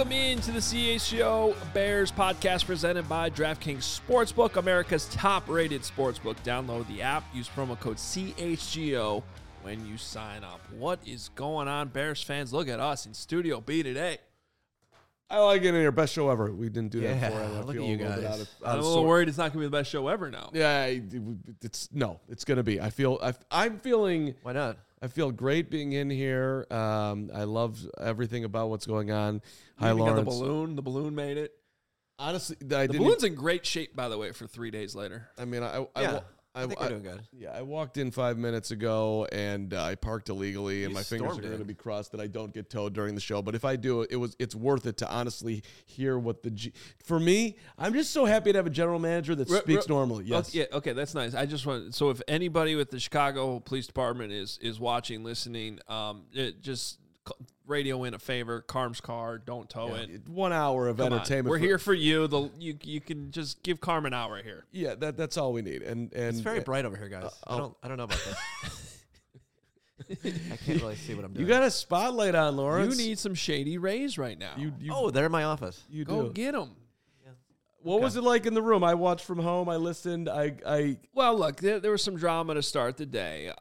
Welcome into the CHGO Bears podcast presented by DraftKings Sportsbook, America's top-rated sportsbook. Download the app. Use promo code CHGO when you sign up. What is going on, Bears fans? Look at us in Studio B today. I like it in here. Best show ever. We didn't do that before. Look at you guys. I'm a little worried it's not going to be the best show ever now. Yeah, it's going to be. I'm feeling. Why not? I feel great being in here. I love everything about what's going on. Hi, We Lawrence. got the balloon. The balloon made it. Honestly, The balloon's in great shape, by the way, for 3 days later. I mean, I think we're doing good. Yeah, I walked in 5 minutes ago and I parked illegally, and my fingers are going to be crossed that I don't get towed during the show. But if I do, it's worth it to honestly hear what for me, I'm just so happy to have a general manager that speaks normally. Yes. Okay, that's nice. I just want so if anybody with the Chicago Police Department is watching, listening, just radio in a favor. Carm's car, don't tow it. 1 hour of entertainment. We're here for you. You can just give Carm an hour here. Yeah, that's all we need. And it's very bright over here, guys. I don't know about this. I can't really see what I'm doing. You got a spotlight on, Lawrence. You need some shady rays right now. They're in my office. You Go do. get them. What was it like in the room? I watched from home. I listened. Well, look, there was some drama to start the day.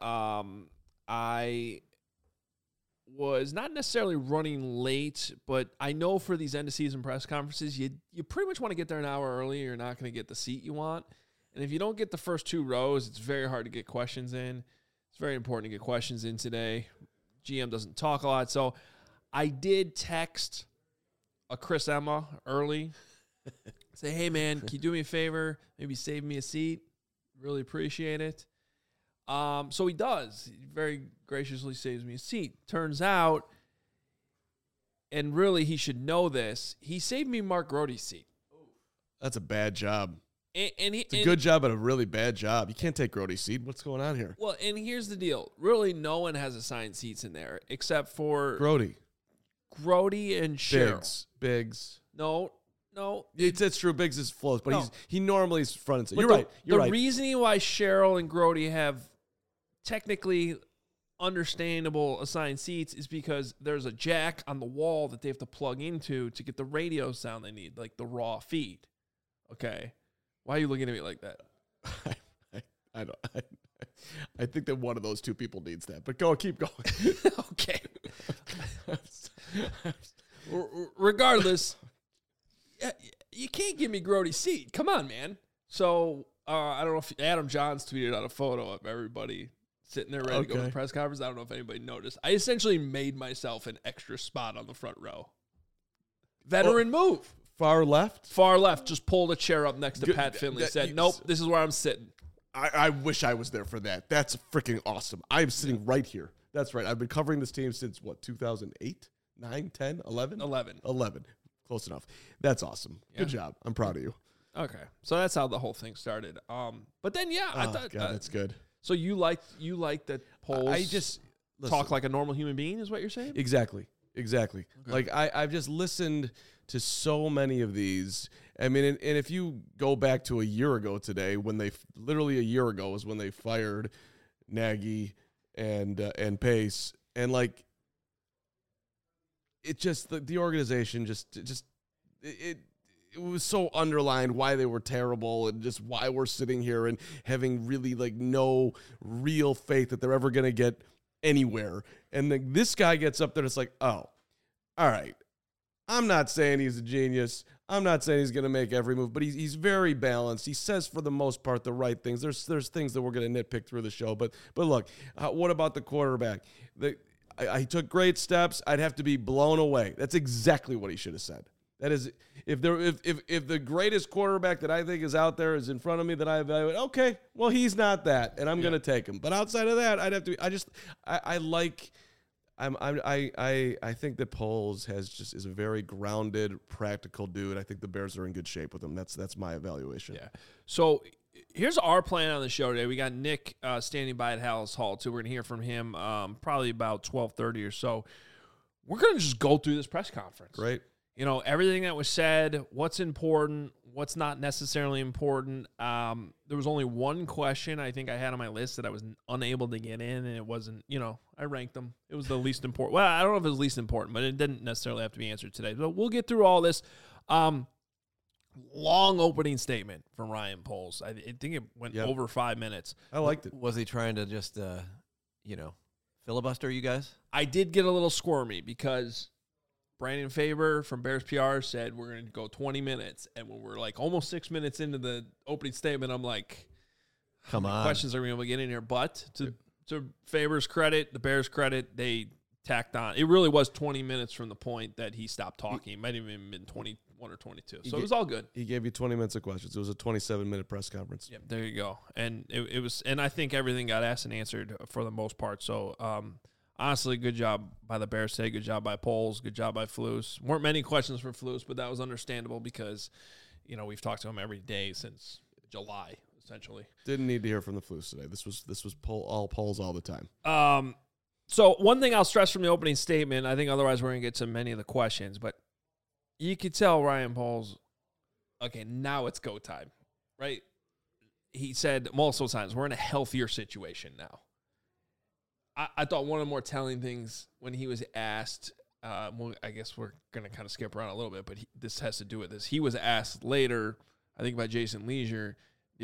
I was not necessarily running late, but I know for these end of season press conferences, you pretty much want to get there an hour early. You're not going to get the seat you want. And if you don't get the first two rows, it's very hard to get questions in. It's very important to get questions in today. GM doesn't talk a lot. So I did text a Chris Emma early. Say, hey, man, can you do me a favor? Maybe save me a seat. Really appreciate it. So he does. He very graciously saves me a seat. Turns out, and really he should know this, he saved me Mark Grote's seat. That's a bad job. It's a good job, but a really bad job. You can't take Grote's seat. What's going on here? Well, and here's the deal. Really, no one has assigned seats in there except for Grote and Cheryl. Biggs. No. It's true. Biggs is close, but he normally is front and center. You're right. You're right. The reasoning why Cheryl and Grote have technically understandable assigned seats is because there's a jack on the wall that they have to plug into to get the radio sound they need, like the raw feed. Okay. Why are you looking at me like that? I don't. I think that one of those two people needs that. But keep going. Okay. Regardless, you can't give me Grote's seat. Come on, man. So I don't know if Adam Johns tweeted out a photo of everybody sitting there ready to go to the press conference. I don't know if anybody noticed. I essentially made myself an extra spot on the front row. Veteran move. Far left? Far left. Just pulled a chair up next to Pat Finley. Said, nope, this is where I'm sitting. I wish I was there for that. That's freaking awesome. I am sitting right here. That's right. I've been covering this team since, 2008? 9, 10, 11? 11. Close enough. That's awesome. Yeah. Good job. I'm proud of you. Okay. So that's how the whole thing started. But then, I thought... God, that's good. So you like that Poles I just talk like a normal human being is what you're saying? Exactly. Okay. Like I've just listened to so many of these. I mean, and if you go back to a year ago today, literally a year ago was when they fired Nagy and Pace, and like it just the organization it was so underlined why they were terrible and just why we're sitting here and having really like no real faith that they're ever going to get anywhere. And this guy gets up there and it's like, oh, all right. I'm not saying he's a genius. I'm not saying he's going to make every move, but he's very balanced. He says for the most part the right things. There's things that we're going to nitpick through the show, but look, what about the quarterback? I took great steps. I'd have to be blown away. That's exactly what he should have said. That is, if the greatest quarterback that I think is out there is in front of me that I evaluate, okay, well, he's not that, and I'm going to take him. But outside of that, I'd have to. I think that Poles is a very grounded, practical dude. I think the Bears are in good shape with him. That's my evaluation. Yeah. So here's our plan on the show today. We got Nick standing by at Hallis Hall too. We're gonna hear from him probably about 12:30 or so. We're gonna just go through this press conference. Right. everything that was said, what's important, what's not necessarily important. There was only one question I think I had on my list that I was unable to get in, and it wasn't, I ranked them. It was the least important. Well, I don't know if it was least important, but it didn't necessarily have to be answered today. So we'll get through all this. Long opening statement from Ryan Poles. I think it went over 5 minutes. I liked it. Was he trying to just, filibuster you guys? I did get a little squirmy because Brandon Faber from Bears PR said we're going to go 20 minutes. And when we're like almost 6 minutes into the opening statement, I'm like, come on. Questions are going to be able to get in here. But to Faber's credit, the Bears' credit, they tacked on. It really was 20 minutes from the point that he stopped talking. It might have even been 21 or 22. So it was all good. He gave you 20 minutes of questions. It was a 27-minute press conference. Yep, there you go. And it was, and I think everything got asked and answered for the most part. So, honestly, good job by the Bears today. Good job by Poles. Good job by Flus. Weren't many questions for Flus, but that was understandable because, we've talked to him every day since July, essentially. Didn't need to hear from the Flus today. This was all Poles all the time. So one thing I'll stress from the opening statement, I think otherwise we're going to get to many of the questions, but you could tell Ryan Poles, okay, now it's go time, right? He said multiple times, we're in a healthier situation now. I thought one of the more telling things when he was asked, well, I guess we're going to kind of skip around a little bit, but this has to do with this. He was asked later, I think by Jason Leisure, do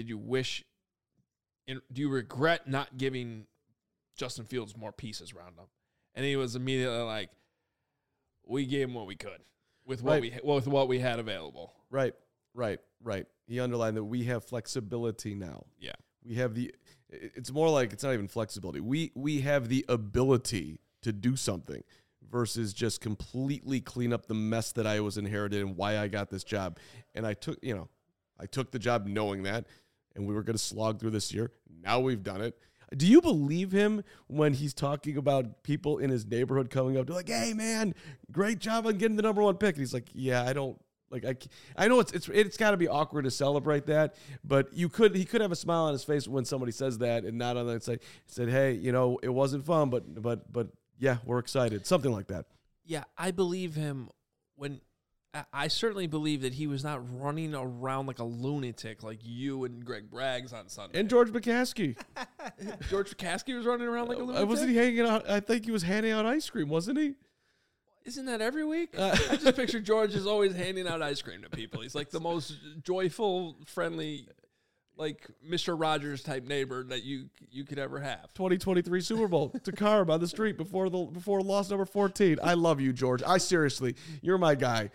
you regret not giving Justin Fields more pieces around him? And he was immediately like, we gave him what we could with what we had available. Right. He underlined that we have flexibility now. Yeah. We have it's more like it's not even flexibility. We have the ability to do something versus just completely clean up the mess that I was inherited and why I got this job. And I took the job knowing that, and we were going to slog through this year. Now we've done it. Do you believe him when he's talking about people in his neighborhood coming up to like, hey man, great job on getting the number 1 pick? And he's like, yeah, I don't like, I know it's got to be awkward to celebrate that, but he could have a smile on his face when somebody says that and not on the side said, hey, it wasn't fun, but yeah, we're excited. Something like that. Yeah. I believe him I certainly believe that he was not running around like a lunatic like you and Greg Braggs on Sunday. And George McCaskey. George McCaskey was running around like a lunatic? Wasn't he hanging out? I think he was handing out ice cream, wasn't he? Isn't that every week? I just picture George is always handing out ice cream to people. He's like the most joyful, friendly, like Mr. Rogers type neighbor that you could ever have. 2023 Super Bowl to Carb on the street before loss number 14. I love you, George. You're my guy.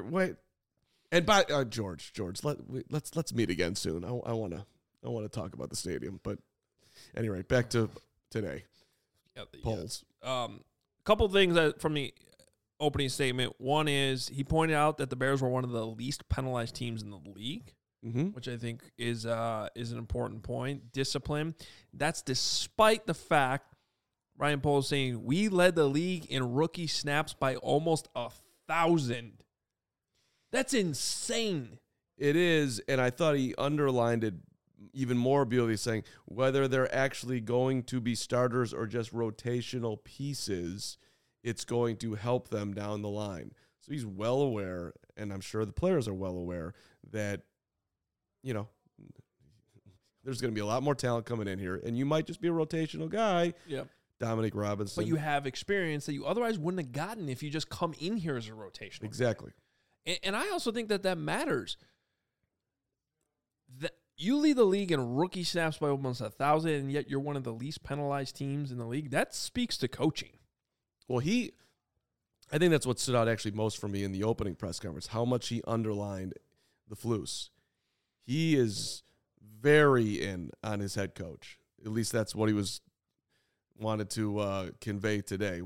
George, let's meet again soon. I want to talk about the stadium. But anyway, back to today. Polls. Couple things from the opening statement. One is he pointed out that the Bears were one of the least penalized teams in the league. Mm-hmm. Which I think is an important point. Discipline. That's despite the fact, Ryan Poles saying, we led the league in rookie snaps by almost 1,000. That's insane. It is, and I thought he underlined it even more beautifully, saying whether they're actually going to be starters or just rotational pieces, it's going to help them down the line. So he's well aware, and I'm sure the players are well aware, that there's going to be a lot more talent coming in here, and you might just be a rotational guy. Yep. Dominic Robinson. But you have experience that you otherwise wouldn't have gotten if you just come in here as a rotational Exactly. guy. And I also think that matters. That you lead the league in rookie snaps by almost 1,000, and yet you're one of the least penalized teams in the league. That speaks to coaching. Well, I think that's what stood out actually most for me in the opening press conference, how much he underlined the Flus. He is very in on his head coach. At least that's what he wanted to convey today.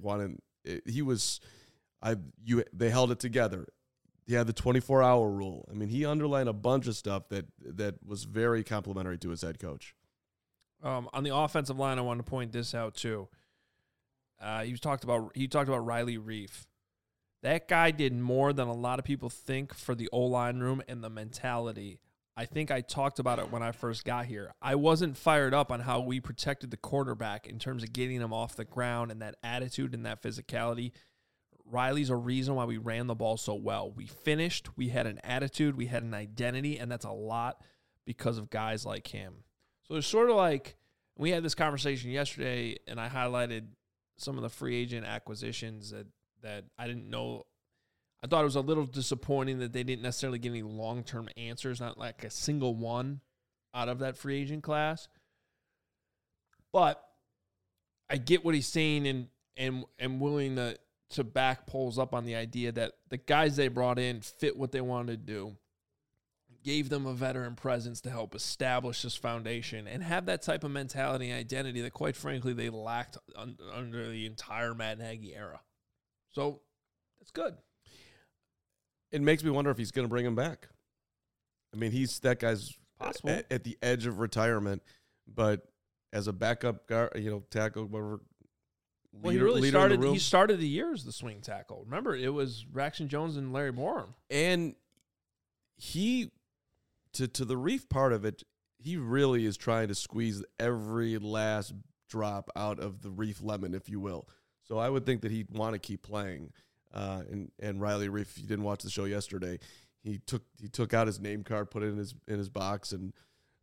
They held it together. He had the 24-hour rule. I mean, he underlined a bunch of stuff that was very complimentary to his head coach. On the offensive line, I want to point this out too. He talked about Riley Reif. That guy did more than a lot of people think for the O-line room and the mentality. I think I talked about it when I first got here. I wasn't fired up on how we protected the quarterback in terms of getting him off the ground and that attitude and that physicality. Riley's a reason why we ran the ball so well. We finished, we had an attitude, we had an identity, and that's a lot because of guys like him. So it's sort of like, we had this conversation yesterday, and I highlighted some of the free agent acquisitions that I didn't know. I thought it was a little disappointing that they didn't necessarily get any long-term answers, not like a single one out of that free agent class. But I get what he's saying and willing to back Poles up on the idea that the guys they brought in fit what they wanted to do, gave them a veteran presence to help establish this foundation and have that type of mentality and identity that, quite frankly, they lacked under the entire Matt Nagy era. So that's good. It makes me wonder if he's going to bring him back. I mean, that guy's possible at the edge of retirement, but as a backup guard, tackle, whatever. Well, he really started. He started the year as the swing tackle. Remember, it was Braxton Jones and Larry Borum, and he, to the Reef part of it, he really is trying to squeeze every last drop out of the Reef lemon, if you will. So I would think that he'd want to keep playing. And Riley Reef, if you didn't watch the show yesterday, he took out his name card, put it in his box, and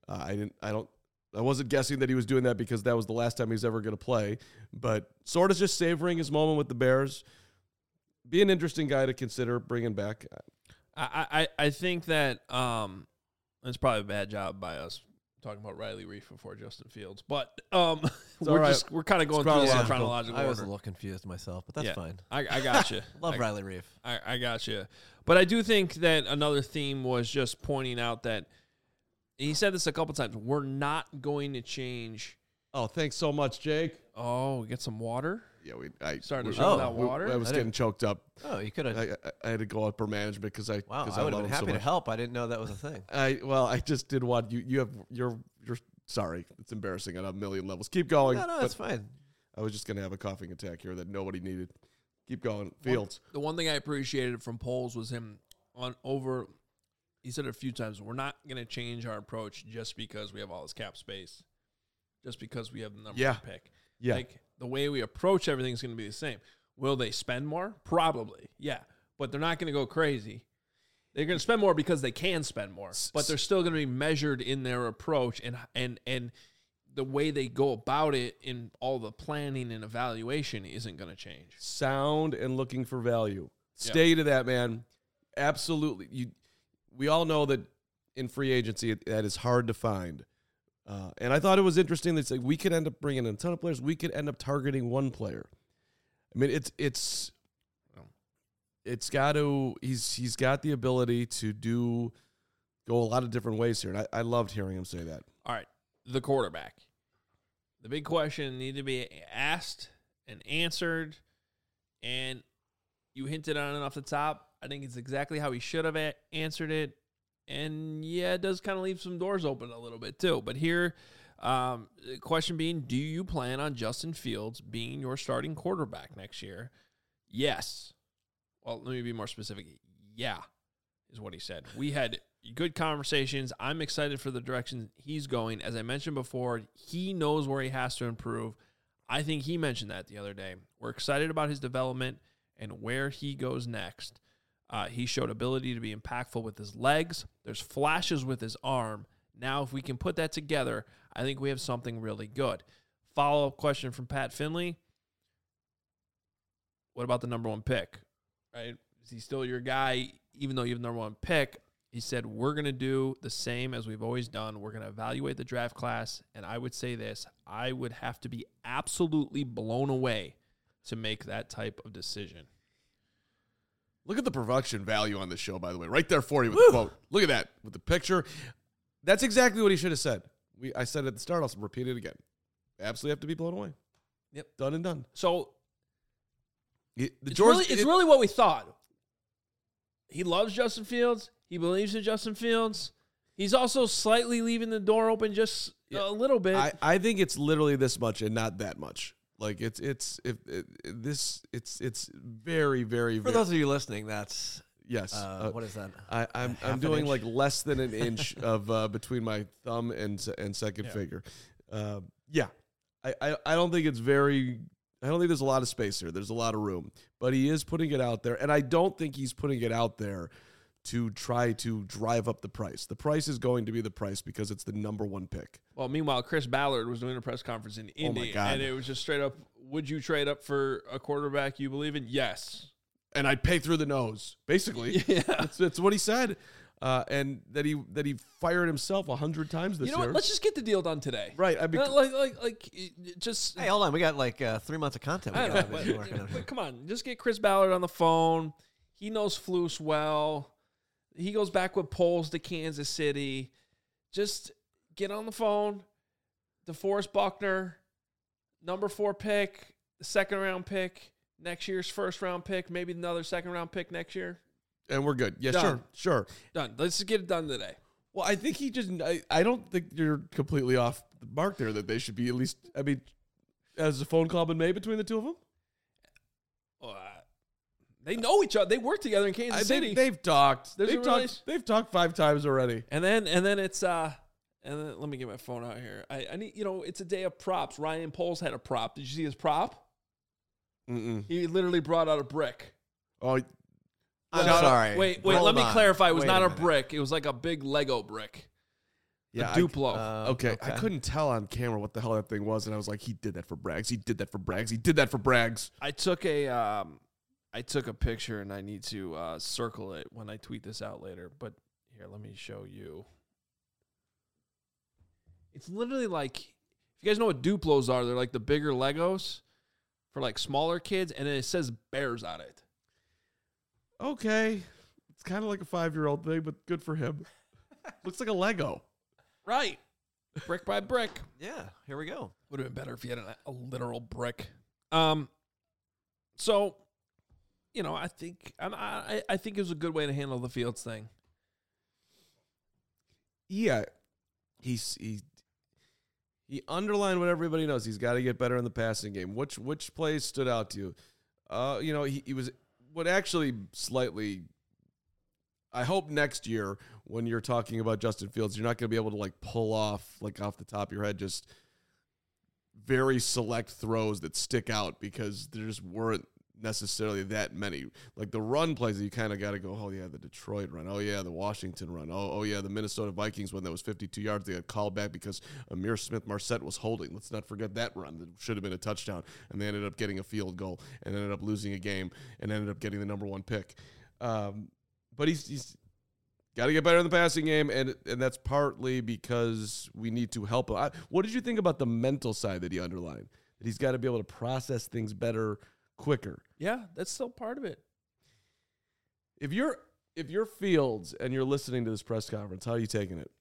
I wasn't guessing that he was doing that because that was the last time he was ever going to play, but sort of just savoring his moment with the Bears. Be an interesting guy to consider bringing back. I think that it's probably a bad job by us talking about Riley Reef before Justin Fields, but we're kind of going through this in chronological order. I was a little confused myself, but that's fine. I got you. Love Riley Reef. I got you. But I do think that another theme was just pointing out that he said this a couple times. We're not going to change. Oh, thanks so much, Jake. Oh, get some water. Yeah, I started the show without water. I was getting choked up. Oh, you could have. I had to go up for management because I would have been happy to help. I didn't know that was a thing. I just did want you're sorry. It's embarrassing on a million levels. Keep going. No, that's fine. I was just gonna have a coughing attack here that nobody needed. Keep going, Fields. The one thing I appreciated from Poles was him he said it a few times, we're not going to change our approach just because we have all this cap space, just because we have the number one pick. Yeah. Like, the way we approach everything is going to be the same. Will they spend more? Probably, yeah. But they're not going to go crazy. They're going to spend more because they can spend more, but they're still going to be measured in their approach and the way they go about it in all the planning and evaluation isn't going to change. Sound and looking for value. Stay to that, man. Absolutely. We all know that in free agency, that is hard to find. And I thought it was interesting that we could end up bringing in a ton of players. We could end up targeting one player. I mean, it's got to. He's got the ability to go a lot of different ways here, and I loved hearing him say that. All right, the quarterback. The big question needed to be asked and answered, and you hinted on it off the top. I think it's exactly how he should have answered it. And, it does kind of leave some doors open a little bit, too. But here, the question being, do you plan on Justin Fields being your starting quarterback next year? Yes. Well, let me be more specific. Yeah, is what he said. We had good conversations. I'm excited for the direction he's going. As I mentioned before, he knows where he has to improve. I think he mentioned that the other day. We're excited about his development and where he goes next. He showed ability to be impactful with his legs. There's flashes with his arm. Now, if we can put that together, I think we have something really good. Follow-up question from Pat Finley. What about the number one pick? Right? Is he still your guy, even though you have the number one pick? He said, we're going to do the same as we've always done. We're going to evaluate the draft class. And I would say this, I would have to be absolutely blown away to make that type of decision. Look at the production value on this show, by the way. Right there for you with the quote. Look at that with the picture. That's exactly what he should have said. I said it at the start. I'll repeat it again. Absolutely have to be blown away. Yep. Done and done. So it's really what we thought. He loves Justin Fields. He believes in Justin Fields. He's also slightly leaving the door open just a little bit. I think it's literally this much and not that much. Like it's very, very. For those of you listening, that's yes. What is that? I'm doing like less than an inch of between my thumb and second finger. I don't think it's very I don't think there's a lot of space here. There's a lot of room, but he is putting it out there, and I don't think he's putting it out there to try to drive up the price. The price is going to be the price because it's the number one pick. Well, meanwhile, Chris Ballard was doing a press conference in Indy, and it was just straight up, would you trade up for a quarterback you believe in? Yes. And I'd pay through the nose, basically. Yeah. That's what he said. And that he fired himself 100 times this year. You know what? Let's just get the deal done today. Right. I mean, just. Hey, hold on. We got like 3 months of content. We got to be working on. Come on, just get Chris Ballard on the phone. He knows Flus well. He goes back with polls to Kansas City. Just get on the phone. DeForest Buckner, number 4 pick, second round pick, next year's first round pick, maybe another second round pick next year. And we're good. Yeah, done. Sure. Done. Let's just get it done today. Well, I think I don't think you're completely off the mark there that they should be at least, I mean, has a phone call been made between the two of them? They know each other. They work together in Kansas City. They've talked. They've talked 5 times already. And then it's and then let me get my phone out here. I need, it's a day of props. Ryan Poles had a prop. Did you see his prop? Mm-mm. He literally brought out a brick. Oh, I'm sorry. Wait. Let me clarify. It was not a brick. It was like a big Lego brick. Yeah, a Duplo. Okay. I couldn't tell on camera what the hell that thing was, and I was like, he did that for Braggs. He did that for Braggs. He did that for Braggs. I took a picture, and I need to circle it when I tweet this out later. But here, let me show you. It's literally like, if you guys know what Duplos are, they're like the bigger Legos for like smaller kids, and it says Bears on it. Okay. It's kind of like a 5-year-old thing, but good for him. Looks like a Lego. Right. Brick by brick. Yeah, here we go. Would have been better if you had a literal brick. So, I think I think it was a good way to handle the Fields thing. Yeah. He underlined what everybody knows. He's got to get better in the passing game. Which plays stood out to you? He was what actually slightly. I hope next year when you're talking about Justin Fields, you're not going to be able to pull off off the top of your head just very select throws that stick out because there just weren't necessarily that many. Like the run plays that you kind of got to go, oh yeah, the Detroit run, oh yeah, the Washington run, oh yeah, the Minnesota Vikings one that was 52 yards. They got called back because Amir Smith-Marset was holding. Let's not forget that run that should have been a touchdown, and they ended up getting a field goal and ended up losing a game and ended up getting the number 1 pick. But he's got to get better in the passing game, and that's partly because we need to help him. What did you think about the mental side that he underlined? That he's got to be able to process things better, quicker. Yeah, that's still part of it. If you're Fields and you're listening to this press conference, how are you taking it?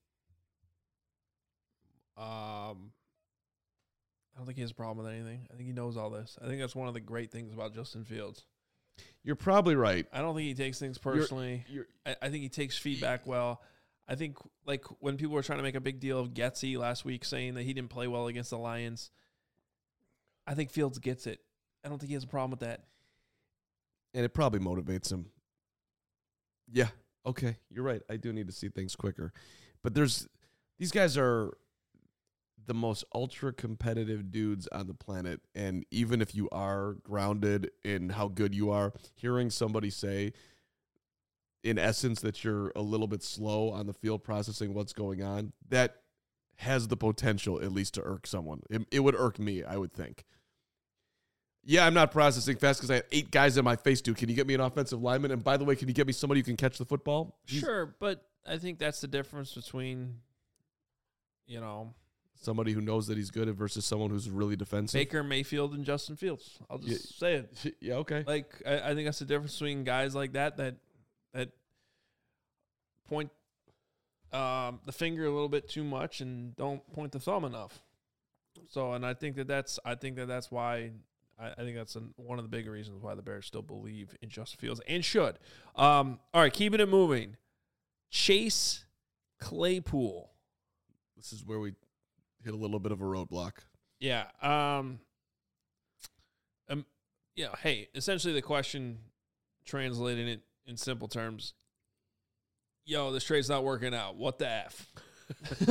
I don't think he has a problem with anything. I think he knows all this. I think that's one of the great things about Justin Fields. You're probably right. I don't think he takes things personally. I think he takes feedback well. I think when people were trying to make a big deal of Getsy last week saying that he didn't play well against the Lions, I think Fields gets it. I don't think he has a problem with that. And it probably motivates him. Yeah, okay, you're right. I do need to see things quicker. But these guys are the most ultra-competitive dudes on the planet, and even if you are grounded in how good you are, hearing somebody say, in essence, that you're a little bit slow on the field processing what's going on, that has the potential at least to irk someone. It would irk me, I would think. Yeah, I'm not processing fast because I have 8 guys in my face, dude. Can you get me an offensive lineman? And by the way, can you get me somebody who can catch the football? Sure, but I think that's the difference between, somebody who knows that he's good versus someone who's really defensive. Baker Mayfield and Justin Fields. I'll just say it. Yeah, okay. I think that's the difference between guys like that point the finger a little bit too much and don't point the thumb enough. So, and I think that's why I think that's one of the bigger reasons why the Bears still believe in Justin Fields and should. All right, keeping it moving. Chase Claypool. This is where we hit a little bit of a roadblock. Yeah. Hey, essentially the question, translating it in simple terms, this trade's not working out. What the F?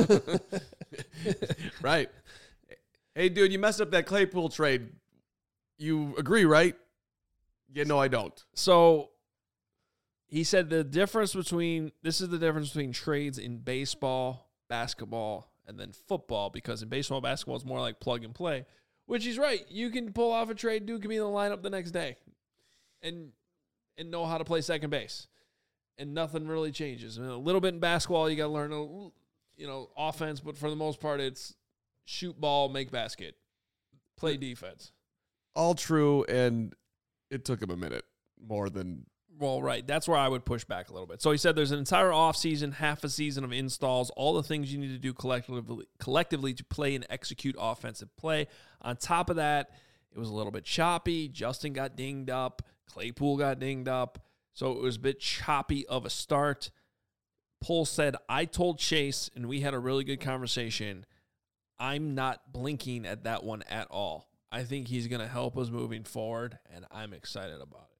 Right. Hey, dude, you messed up that Claypool trade. You agree, right? Yeah, no, I don't. So he said this is the difference between trades in baseball, basketball, and then football, because in baseball, basketball, it's more like plug and play, which he's right. You can pull off a trade. Dude can be in the lineup the next day and know how to play second base. And nothing really changes. I mean, a little bit in basketball, you got to learn, offense, but for the most part, it's shoot ball, make basket, play defense. All true, and it took him a minute more than... Well, right. That's where I would push back a little bit. So he said there's an entire offseason, half a season of installs, all the things you need to do collectively to play and execute offensive play. On top of that, it was a little bit choppy. Justin got dinged up. Claypool got dinged up. So it was a bit choppy of a start. Pohl said, I told Chase, and we had a really good conversation, I'm not blinking at that one at all. I think he's going to help us moving forward, and I'm excited about it.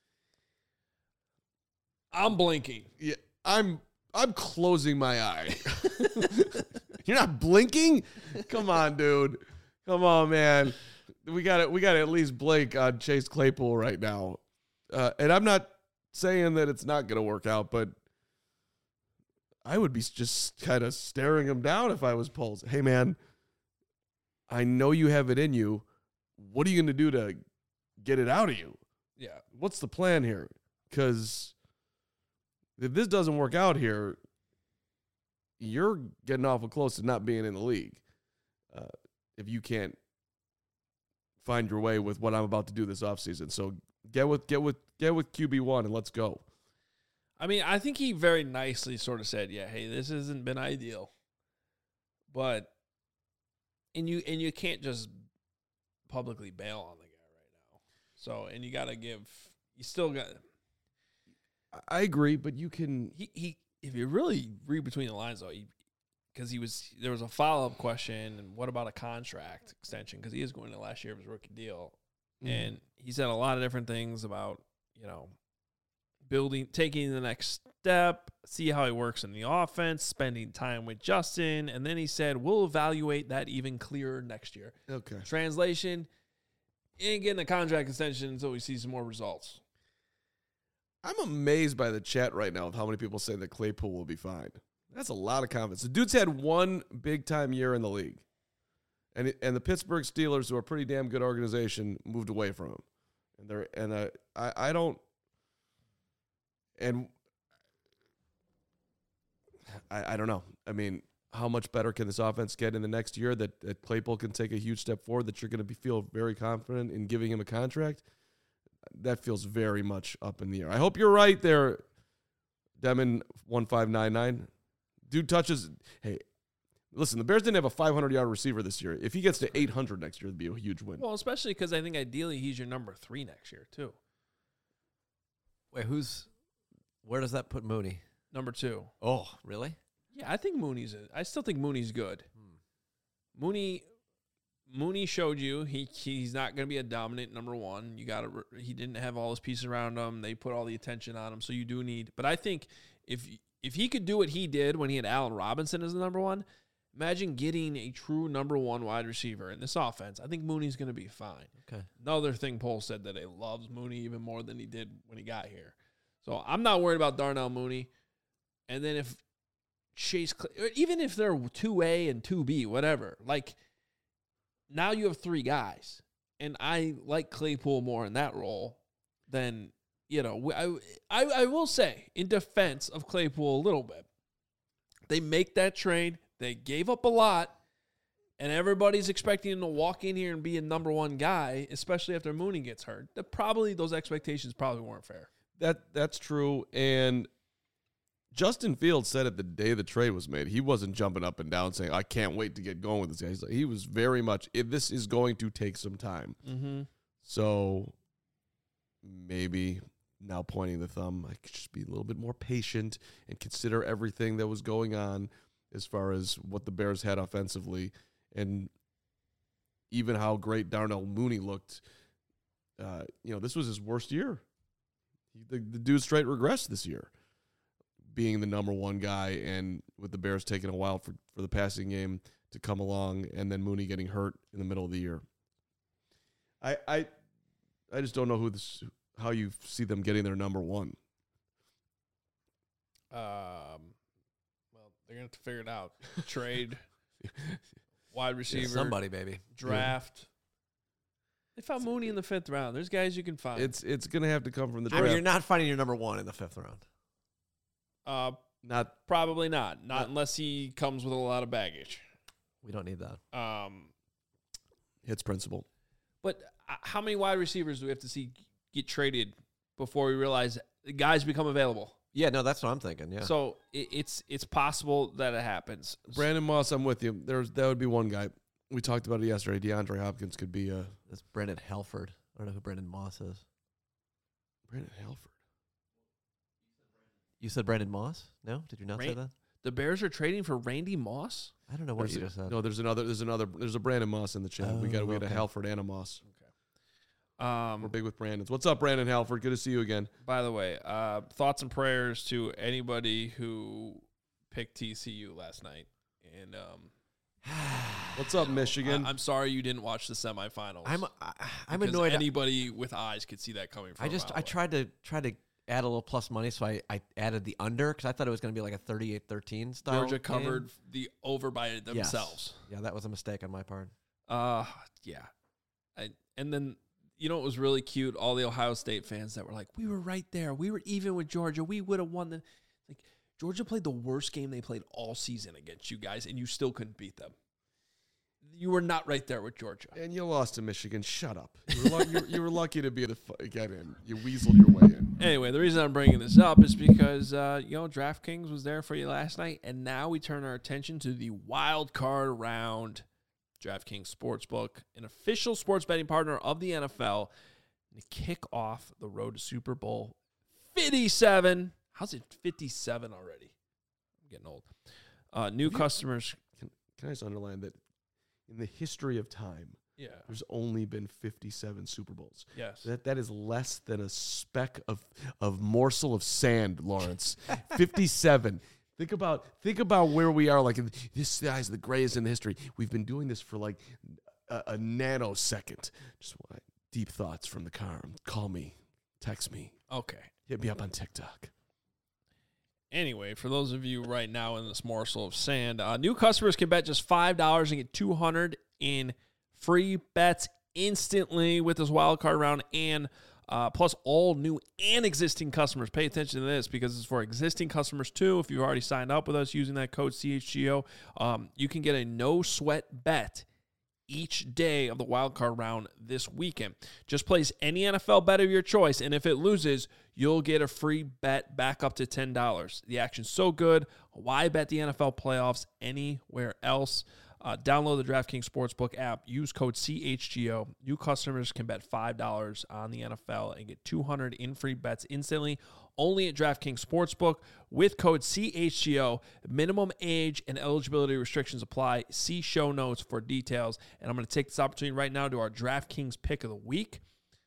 I'm blinking. Yeah, I'm closing my eye. You're not blinking? Come on, dude. Come on, man. We got to at least blink on Chase Claypool right now. And I'm not saying that it's not going to work out, but I would be just kind of staring him down if I was Poles. Hey, man, I know you have it in you. What are you going to do to get it out of you? Yeah. What's the plan here? Because if this doesn't work out here, you're getting awful close to not being in the league. If you can't find your way with what I'm about to do this offseason. So get with QB1 and let's go. I mean, I think he very nicely sort of said, yeah, hey, this hasn't been ideal. But and you can't just publicly bail on the guy right now. So, and you still got. I agree, but you can. He if you really read between the lines though, because there was a follow-up question, and what about a contract extension? Because he is going to last year of his rookie deal, and he said a lot of different things about taking the next step, see how he works in the offense, spending time with Justin, and then he said we'll evaluate that even clearer next year. Okay. Translation: he ain't getting a contract extension until we see some more results. I'm amazed by the chat right now of how many people say that Claypool will be fine. That's a lot of confidence. The dude's had one big-time year in the league. And the Pittsburgh Steelers, who are a pretty damn good organization, moved away from him. I don't know. I mean, how much better can this offense get in the next year that Claypool can take a huge step forward, that you're going to feel very confident in giving him a contract? That feels very much up in the air. I hope you're right there, Demon1599. Dude touches. Hey, listen, the Bears didn't have a 500-yard receiver this year. If he gets to 800 next year, it'd be a huge win. Well, especially because I think ideally he's your number 3 next year, too. Wait, where does that put Mooney? Number 2. Oh, really? Yeah, I still think Mooney's good. Mooney showed you he's not going to be a dominant number 1. He didn't have all his pieces around him. They put all the attention on him, so you do need. But I think if he could do what he did when he had Allen Robinson as the number 1, imagine getting a true number 1 wide receiver in this offense. I think Mooney's going to be fine. Okay. Another thing Pohl said that he loves Mooney even more than he did when he got here. So I'm not worried about Darnell Mooney. And then if even if they're 2A and 2B, whatever, like. Now you have 3 guys, and I like Claypool more in that role than, I will say, in defense of Claypool a little bit, they make that trade, they gave up a lot, and everybody's expecting him to walk in here and be a number 1 guy, especially after Mooney gets hurt. Those expectations probably weren't fair. That's true, and Justin Fields said it the day the trade was made. He wasn't jumping up and down saying, I can't wait to get going with this guy. He was very much, this is going to take some time. Mm-hmm. So maybe now pointing the thumb, I could just be a little bit more patient and consider everything that was going on as far as what the Bears had offensively and even how great Darnell Mooney looked. This was his worst year. The dude straight regressed this year, being the number 1 guy, and with the Bears taking a while for the passing game to come along, and then Mooney getting hurt in the middle of the year. I just don't know how you see them getting their number one. Well, they're going to have to figure it out. Trade, wide receiver, Somebody, baby. draft. They found Mooney in the 5th round. There's guys you can find. It's going to have to come from the I draft. mean, you're not finding your number one in the 5th round. Not Probably not unless he comes with a lot of baggage. We don't need that. hits principle. But how many wide receivers do we have to see get traded before we realize guys become available? Yeah, no, that's what I'm thinking. Yeah. So it's possible that it happens. Brandon Moss, I'm with you. That would be one guy. We talked about it yesterday. DeAndre Hopkins could be That's Brandon Halford. I don't know who Brandon Moss is. Brandon Halford. You said Brandon Moss? No? Did you not say that? The Bears are trading for Randy Moss? I don't know what you just said. No, there's a Brandon Moss in the chat. We had a Halford and a Moss. Okay. We're big with Brandon's. What's up, Brandon Halford? Good to see you again. By the way, thoughts and prayers to anybody who picked TCU last night. And what's up, Michigan? I'm sorry you didn't watch the semifinals. I'm annoyed. Anybody with eyes could see that coming from. I tried to add a little plus money, so I added the under because I thought it was going to be like a 38-13 style. Georgia game. covered the over by themselves. Yes. Yeah, that was a mistake on my part. Yeah. And then, you know, it was really cute. All the Ohio State fans that were like, we were right there. We were even with Georgia. We would have won. Like, Georgia played the worst game they played all season against you guys, and you still couldn't beat them. You were not right there with Georgia. And you lost to Michigan. Shut up. You were lucky to get in. You weaseled your way in. Anyway, the reason I'm bringing this up is because, DraftKings was there for you last night, and now we turn our attention to the wild card round. DraftKings Sportsbook, an official sports betting partner of the NFL, to kick off the road to Super Bowl 57. How's it 57 already? I'm getting old. New customers. Can I just underline that in the history of time, there's only been 57 Super Bowls. Yes. That is less than a speck of morsel of sand, Lawrence. 57. Think about where we are. Like, this guy's the greatest in history. We've been doing this for like a nanosecond. Just deep thoughts from the car. Call me. Text me. Okay. Hit me up on TikTok. Anyway, for those of you right now in this morsel of sand, new customers can bet just $5 and get $200 in free bets instantly with this wild card round, and plus all new and existing customers. Pay attention to this because it's for existing customers too. If you've already signed up with us using that code CHGO, you can get a no sweat bet each day of the wild card round this weekend. Just place any NFL bet of your choice, and if it loses, you'll get a free bet back up to $10. The action's so good. Why bet the NFL playoffs anywhere else? Download the DraftKings Sportsbook app. Use code CHGO. New customers can bet $5 on the NFL and get $200 in free bets instantly. Only at DraftKings Sportsbook with code CHGO. Minimum age and eligibility restrictions apply. See show notes for details. And I'm going to take this opportunity right now to our DraftKings pick of the week.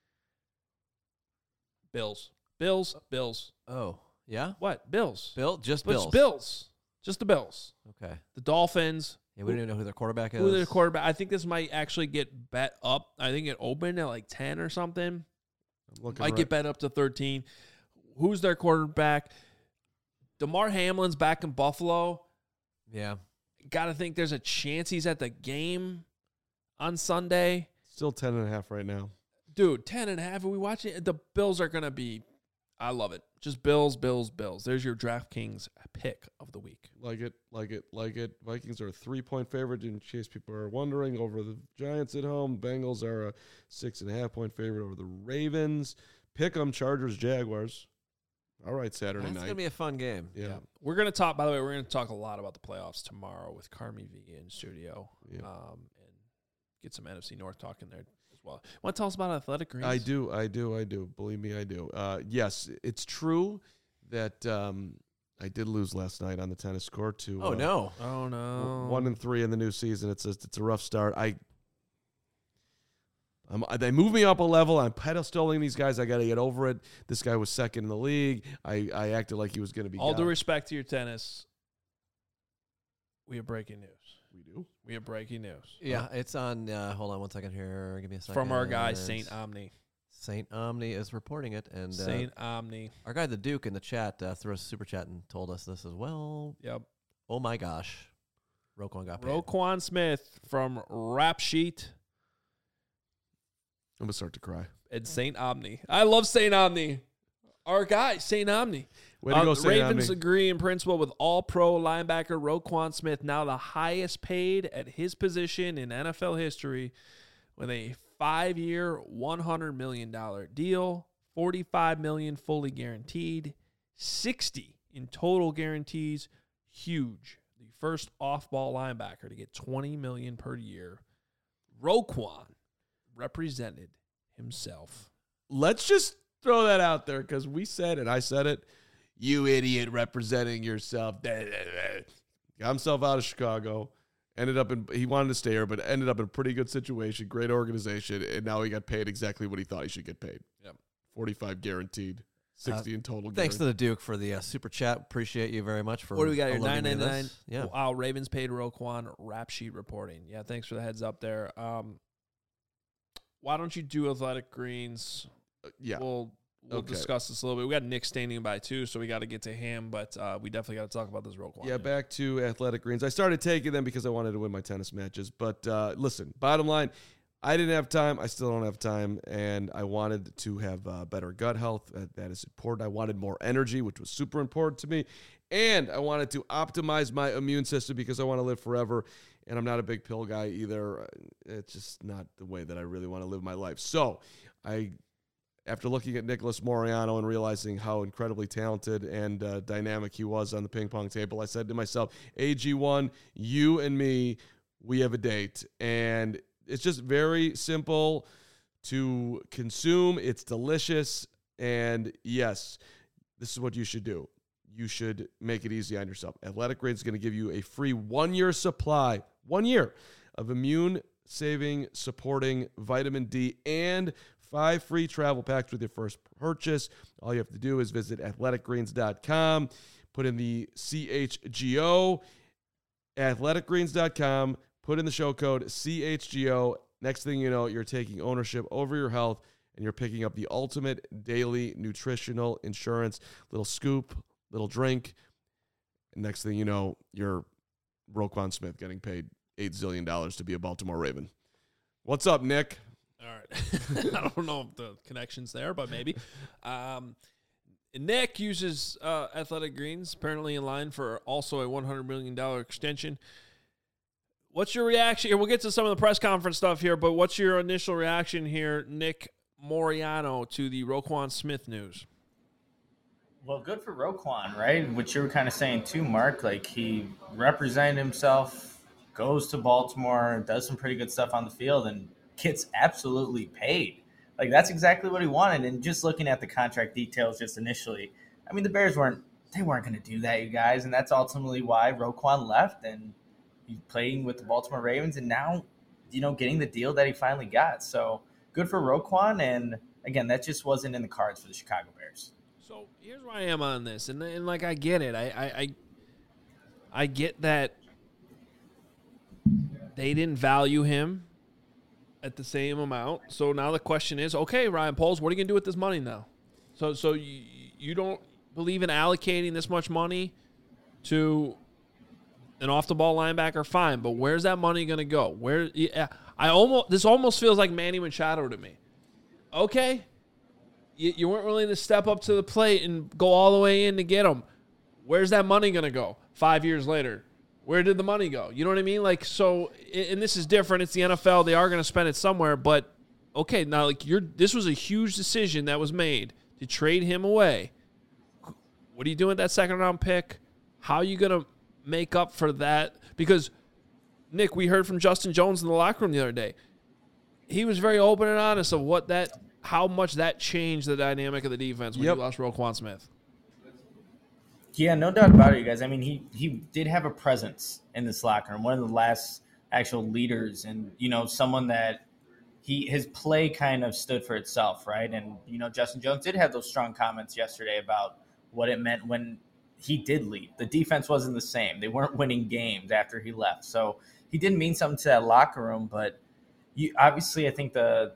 Bills. Oh, yeah? What? Bills. Just But Bills. it's Bills. Just the Bills. Okay. The Dolphins. Yeah, we don't even know who their quarterback is. Who their quarterback? I think this might actually get bet up. I think it opened at like 10 or something. Might get bet up to 13. Who's their quarterback? DeMar Hamlin's back in Buffalo. Yeah. Got to think there's a chance he's at the game on Sunday. Still 10.5 right now. Dude, 10.5. Are we watching? The Bills are going to be, I love it. Just Bills. There's your DraftKings pick of the week. Like it. Vikings are a 3-point favorite in case people are wondering over the Giants at home. Bengals are a 6.5-point favorite over the Ravens. Pick 'em, Chargers, Jaguars. All right, Saturday night. That's going to be a fun game. Yeah. We're going to talk, by the way, we're going to talk a lot about the playoffs tomorrow with Carmi V in studio. Yeah. And get some NFC North talk in there as well. Want to tell us about Athletic Greens? I do. Believe me, I do. Yes, it's true that I did lose last night on the tennis court to Oh, no. 1-3 in the new season. It's a rough start. They moved me up a level. I'm pedestaling these guys. I got to get over it. This guy was second in the league. I acted like he was going to be. All due respect to your tennis, we have breaking news. We have breaking news. Yeah, it's on. Hold on one second here. Give me a second. From our guy, St. Omni. Saint Omni is reporting it, and Saint Omni. our guy the Duke in the chat threw us a super chat and told us this as well. Yep. Oh my gosh, Roquan got paid. Roquan Smith from Rap Sheet I'm gonna start to cry. and Saint Omni. I love Saint Omni. Our guy, Saint Omni. Way to go, The Saint Ravens Omni. agree in principle with all-pro linebacker Roquan Smith, now the highest paid at his position in NFL history, with a 5-year, $100 million deal, $45 million fully guaranteed, $60 in total guarantees. Huge. The first off-ball linebacker to get $20 million per year. Roquan represented himself. Let's just throw that out there because we said it. I said it. You idiot representing yourself. Got himself out of Chicago. He wanted to stay here, but ended up in a pretty good situation, great organization, and now he got paid exactly what he thought he should get paid. Yep. 45 guaranteed, 60 in total. Thanks to the Duke for the super chat. Appreciate you very much for. What do we got here? alerting me to $9.99. this. Yeah. Wow, Ravens paid Roquan. Rap Sheet reporting. Yeah, thanks for the heads up there. Why don't you do Athletic Greens? Yeah. We'll Okay. discuss this a little bit. We got Nick standing by too, so we got to get to him. But we definitely got to talk about this Roquan. Yeah, back to Athletic Greens. I started taking them because I wanted to win my tennis matches. But listen, bottom line, I didn't have time. I still don't have time. And I wanted to have better gut health. That is important. I wanted more energy, which was super important to me. And I wanted to optimize my immune system because I want to live forever. And I'm not a big pill guy either. It's just not the way that I really want to live my life. So after looking at Nicholas Moreano and realizing how incredibly talented and dynamic he was on the ping pong table, I said to myself, AG1, you and me, we have a date. And it's just very simple to consume. It's delicious. And yes, this is what you should do. You should make it easy on yourself. Athletic Greens is going to give you a free 1-year supply, 1 year of immune-saving, supporting vitamin D and 5 free travel packs with your first purchase. All you have to do is visit athleticgreens.com, put in the CHGO, athleticgreens.com, put in the show code CHGO. Next thing you know, you're taking ownership over your health and you're picking up the ultimate daily nutritional insurance. Little scoop, little drink. And next thing you know, you're Roquan Smith getting paid $8 zillion to be a Baltimore Raven. What's up, Nick? All right. I don't know if the connection's there, but maybe. Nick uses Athletic Greens, apparently in line for also a $100 million extension. What's your reaction? We'll get to some of the press conference stuff here, but what's your initial reaction here, Nick Moreano, to the Roquan Smith news? Well, good for Roquan, right? What you were kind of saying too, Mark. Like, he represented himself, goes to Baltimore, does some pretty good stuff on the field, and gets absolutely paid. Like, that's exactly what he wanted. And just looking at the contract details just initially, I mean, the Bears weren't going to do that, you guys. And that's ultimately why Roquan left, and he's playing with the Baltimore Ravens, and now, getting the deal that he finally got. So good for Roquan. And again, that just wasn't in the cards for the Chicago Bears. So here's where I am on this, and like, I get it. I get that they didn't value him at the same amount. So now the question is, okay, Ryan Poles, what are you gonna do with this money now? So you don't believe in allocating this much money to an off the ball linebacker? Fine, but where's that money gonna go? This almost feels like Manny Machado to me. Okay. You weren't willing to step up to the plate and go all the way in to get him. Where's that money going to go 5 years later? Where did the money go? You know what I mean? Like, so, and this is different. It's the NFL. They are going to spend it somewhere. But, okay, now, like, this was a huge decision that was made to trade him away. What are you doing with that second-round pick? How are you going to make up for that? Because, Nick, we heard from Justin Jones in the locker room the other day. He was very open and honest of how much that changed the dynamic of the defense when you lost Roquan Smith. Yeah, no doubt about it, you guys. I mean, he did have a presence in this locker room, one of the last actual leaders, and, someone that his play kind of stood for itself, right? And, Justin Jones did have those strong comments yesterday about what it meant when he did leave. The defense wasn't the same. They weren't winning games after he left. So he did mean something to that locker room, but obviously I think the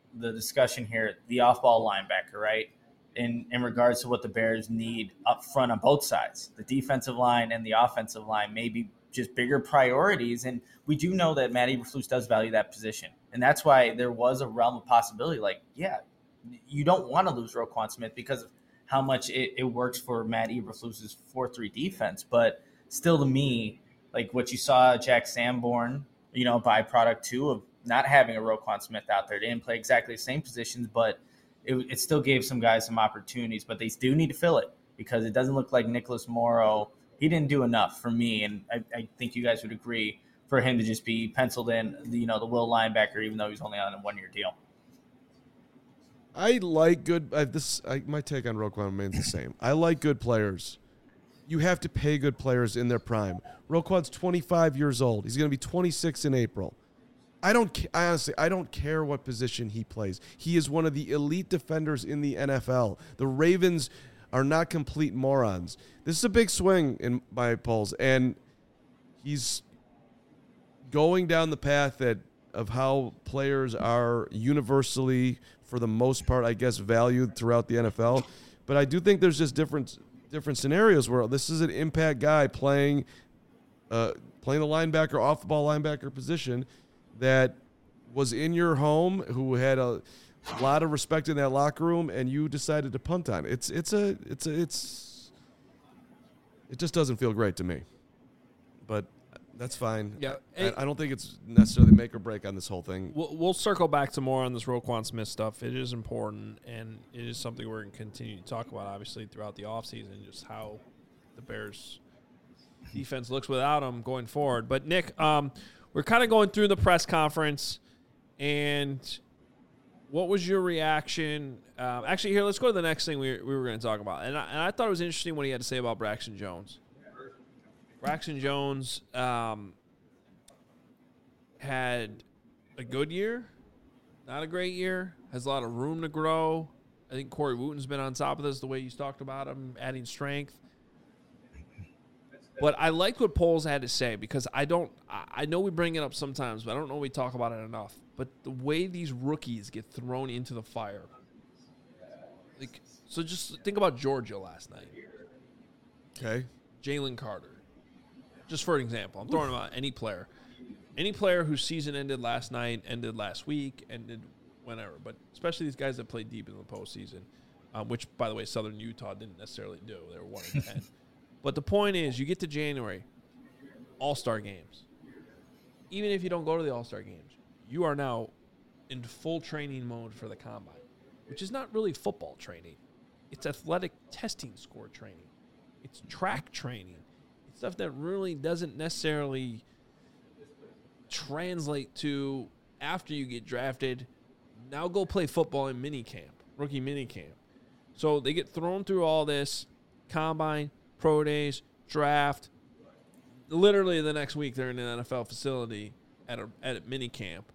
the discussion here, the off-ball linebacker, right? In regards to what the Bears need up front on both sides, the defensive line and the offensive line, maybe just bigger priorities. And we do know that Matt Eberflus does value that position. And that's why there was a realm of possibility. Like, yeah, you don't want to lose Roquan Smith because of how much it works for Matt Eberflus's 4-3 defense. But still, to me, like what you saw Jack Sanborn, byproduct too of not having a Roquan Smith out there. They didn't play exactly the same positions, but it still gave some guys some opportunities. But they do need to fill it because it doesn't look like Nicholas Morrow. He didn't do enough for me, and I think you guys would agree, for him to just be penciled in, the will linebacker, even though he's only on a 1-year deal. I like good. My take on Roquan remains the same. I like good players. You have to pay good players in their prime. Roquan's 25 years old. He's going to be 26 in April. Honestly, I don't care what position he plays. He is one of the elite defenders in the NFL. The Ravens are not complete morons. This is a big swing in my polls, and he's going down the path of how players are universally, for the most part, I guess, valued throughout the NFL. But I do think there's just different scenarios where this is an impact guy playing the linebacker, off the ball linebacker position that was in your home, who had a lot of respect in that locker room, and you decided to punt on. It just doesn't feel great to me. But that's fine. Yeah, I don't think it's necessarily make or break on this whole thing. We'll circle back to more on this Roquan Smith stuff. It is important, and it is something we're going to continue to talk about, obviously, throughout the offseason, just how the Bears' defense looks without him going forward. But, Nick, we're kind of going through the press conference, and what was your reaction? Actually, here, let's go to the next thing we were going to talk about. And I thought it was interesting what he had to say about Braxton Jones. Braxton Jones had a good year, not a great year, has a lot of room to grow. I think Corey Wooten's been on top of this, the way he's talked about him, adding strength. But I liked what Poles had to say, because I know we bring it up sometimes, but I don't know we talk about it enough. But the way these rookies get thrown into the fire. So just think about Georgia last night. Okay. Jalen Carter. Just for an example. I'm throwing about any player. Any player whose season ended last night, ended last week, ended whenever. But especially these guys that played deep in the postseason, which, by the way, Southern Utah didn't necessarily do. They were 1-10. But the point is, you get to January, All-Star games. Even if you don't go to the All-Star games, you are now in full training mode for the Combine, which is not really football training. It's athletic testing score training. It's track training. It's stuff that really doesn't necessarily translate to, after you get drafted, now go play football in minicamp, rookie minicamp. So they get thrown through all this, Combine, Pro Days, draft. Literally the next week, they're in an NFL facility at a mini camp.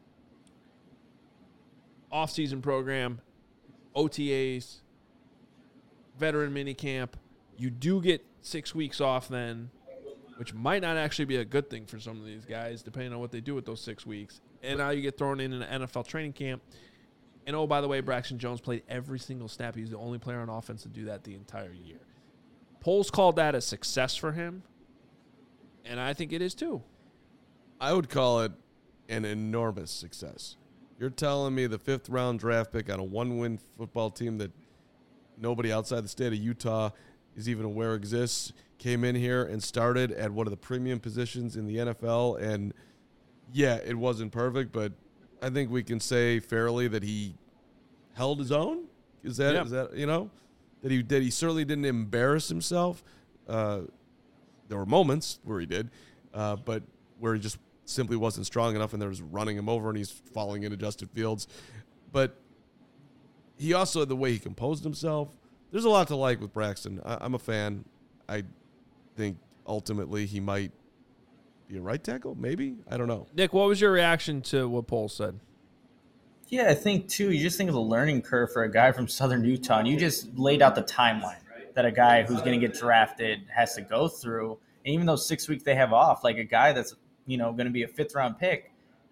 Off-season program, OTAs, veteran mini camp. You do get 6 weeks off then, which might not actually be a good thing for some of these guys, depending on what they do with those 6 weeks. And now you get thrown in an NFL training camp. And, oh, by the way, Braxton Jones played every single snap. He's the only player on offense to do that the entire year. Poles called that a success for him, and I think it is too. I would call it an enormous success. You're telling me the 5th-round draft pick on a 1-win football team that nobody outside the state of Utah is even aware exists came in here and started at one of the premium positions in the NFL, and, yeah, it wasn't perfect, but I think we can say fairly that he held his own? Is that you know? That he certainly didn't embarrass himself. There were moments where he did, but where he just simply wasn't strong enough, and there was running him over, and he's falling into Justin Fields. But he also, the way he composed himself, there's a lot to like with Braxton. I'm a fan. I think ultimately he might be a right tackle, maybe? I don't know. Nick, what was your reaction to what Poles said? Yeah, I think, too, you just think of the learning curve for a guy from Southern Utah, and you just laid out the timeline that a guy who's going to get drafted has to go through. And even those 6 weeks they have off, like a guy that's, going to be a 5th-round pick,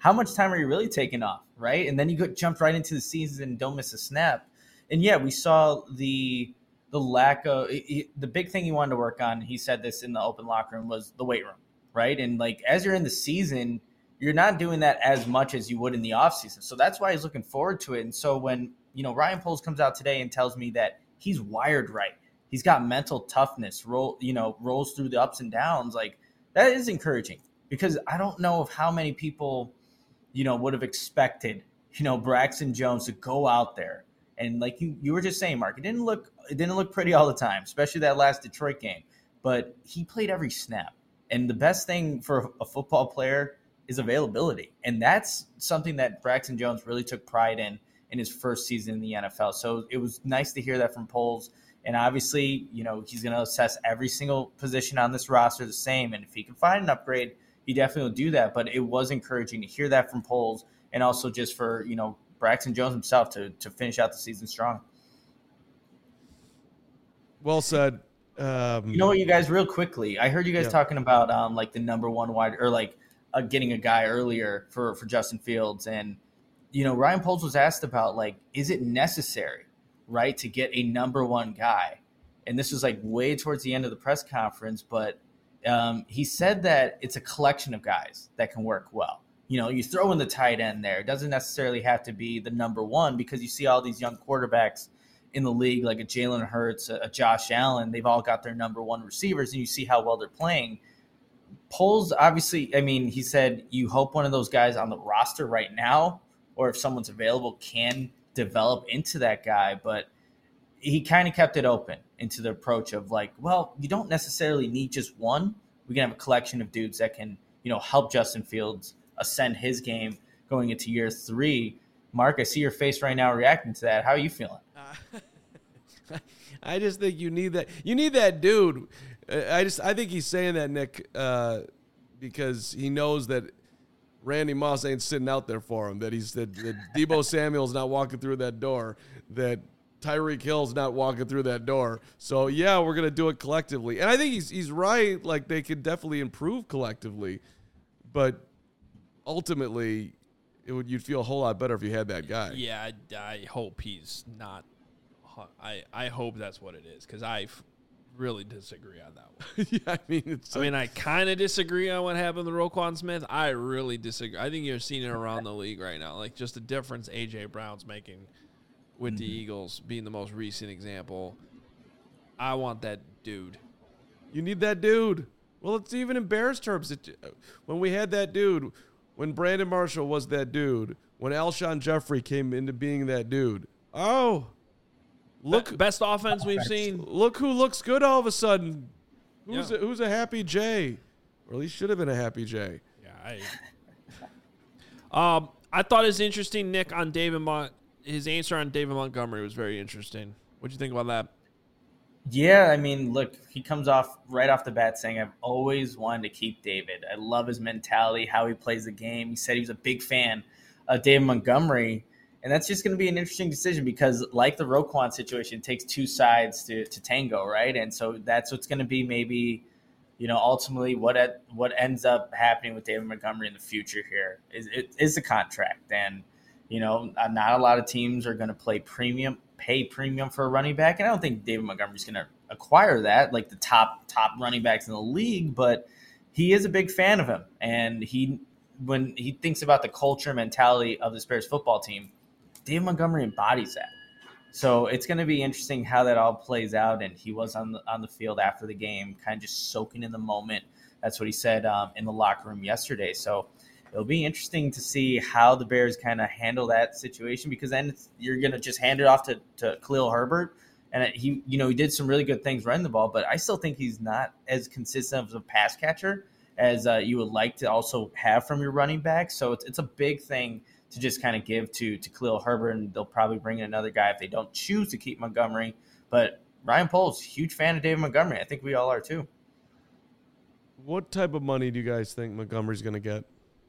how much time are you really taking off, right? And then you jump right into the season and don't miss a snap. And yeah, we saw the lack of the big thing he wanted to work on. He said this in the open locker room was the weight room, right? And like as you're in the season, you're not doing that as much as you would in the offseason. So that's why he's looking forward to it. And so when, Ryan Poles comes out today and tells me that he's wired right, he's got mental toughness, rolls through the ups and downs, like that is encouraging, because I don't know of how many people, would have expected, Braxton Jones to go out there. And like you were just saying, Mark, it didn't look pretty all the time, especially that last Detroit game, but he played every snap. And the best thing for a football player is availability. And that's something that Braxton Jones really took pride in his first season in the NFL. So it was nice to hear that from Poles. And obviously, he's going to assess every single position on this roster the same. And if he can find an upgrade, he definitely will do that. But it was encouraging to hear that from Poles, and also just for, Braxton Jones himself to finish out the season strong. Well said. You know what, you guys, real quickly, I heard you guys talking about like the number one wide, or like getting a guy earlier for Justin Fields. And, Ryan Poles was asked about, like, is it necessary, right, to get a number one guy? And this was like way towards the end of the press conference, but he said that it's a collection of guys that can work well. You throw in the tight end there. It doesn't necessarily have to be the number one, because you see all these young quarterbacks in the league, like a Jalen Hurts, a Josh Allen. They've all got their number one receivers, and you see how well they're playing. Poles, obviously, I mean, he said you hope one of those guys on the roster right now, or if someone's available, can develop into that guy. But he kind of kept it open into the approach of like, well, you don't necessarily need just one. We can have a collection of dudes that can, help Justin Fields ascend his game going into year 3. Mark, I see your face right now reacting to that. How are you feeling? I just think you need that. You need that dude. I think he's saying that, Nick, because he knows that Randy Moss ain't sitting out there for him. That that Deebo Samuel's not walking through that door. That Tyreek Hill's not walking through that door. So yeah, we're gonna do it collectively. And I think he's right. Like, they could definitely improve collectively, but ultimately, you'd feel a whole lot better if you had that guy. Yeah, I hope he's not. I hope that's what it is, because I really disagree on that one. I kind of disagree on what happened to Roquan Smith. I really disagree. I think you're seeing it around the league right now, like just the difference A.J. Brown's making with the Eagles being the most recent example. I want that dude. You need that dude. Well, it's even in Bears terms. When we had that dude, when Brandon Marshall was that dude, when Alshon Jeffrey came into being that dude. Oh, look, best offense we've seen. Look who looks good all of a sudden. Who's a happy Jay? Or at least should have been a happy Jay. Yeah, I thought it was interesting, Nick, on his answer on David Montgomery was very interesting. What'd you think about that? Yeah, I mean, look, he comes off right off the bat saying, I've always wanted to keep David. I love his mentality, how he plays the game. He said he was a big fan of David Montgomery. And that's just going to be an interesting decision, because like the Roquan situation, it takes two sides to tango, right? And so that's what's going to be maybe, ultimately what ends up happening with David Montgomery in the future here is the contract. And, not a lot of teams are going to pay premium for a running back. And I don't think David Montgomery's going to acquire that, like the top running backs in the league, but he is a big fan of him. And when he thinks about the culture mentality of this Bears football team, David Montgomery embodies that. So it's going to be interesting how that all plays out. And he was on the field after the game, kind of just soaking in the moment. That's what he said in the locker room yesterday. So it'll be interesting to see how the Bears kind of handle that situation, because then you're going to just hand it off to Khalil Herbert. And he did some really good things running the ball, but I still think he's not as consistent as a pass catcher as you would like to also have from your running back. So it's a big thing to just kind of give to Khalil Herbert, and they'll probably bring in another guy if they don't choose to keep Montgomery. But Ryan Poles, huge fan of David Montgomery. I think we all are too. What type of money do you guys think Montgomery's going to get?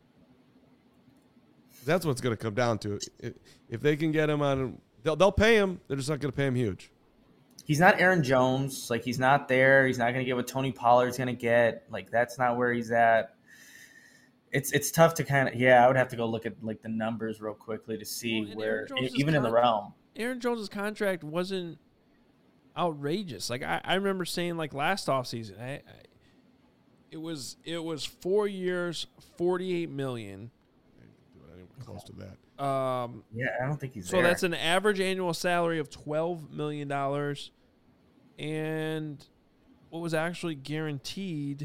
That's what's going to come down to. If they can get him on, they'll pay him. They're just not going to pay him huge. He's not Aaron Jones. Like, he's not there. He's not going to get what Tony Pollard's going to get. Like, that's not where he's at. it's tough to kind of I would have to go look at like the numbers real quickly to see Well, where Aaron Jones' even in the realm. Aaron Jones' contract wasn't outrageous. Like I remember saying like last offseason, it was 4 years, $48 million. Close to that. I don't think he's so there. that's an average annual salary of $12 million, and what was actually guaranteed?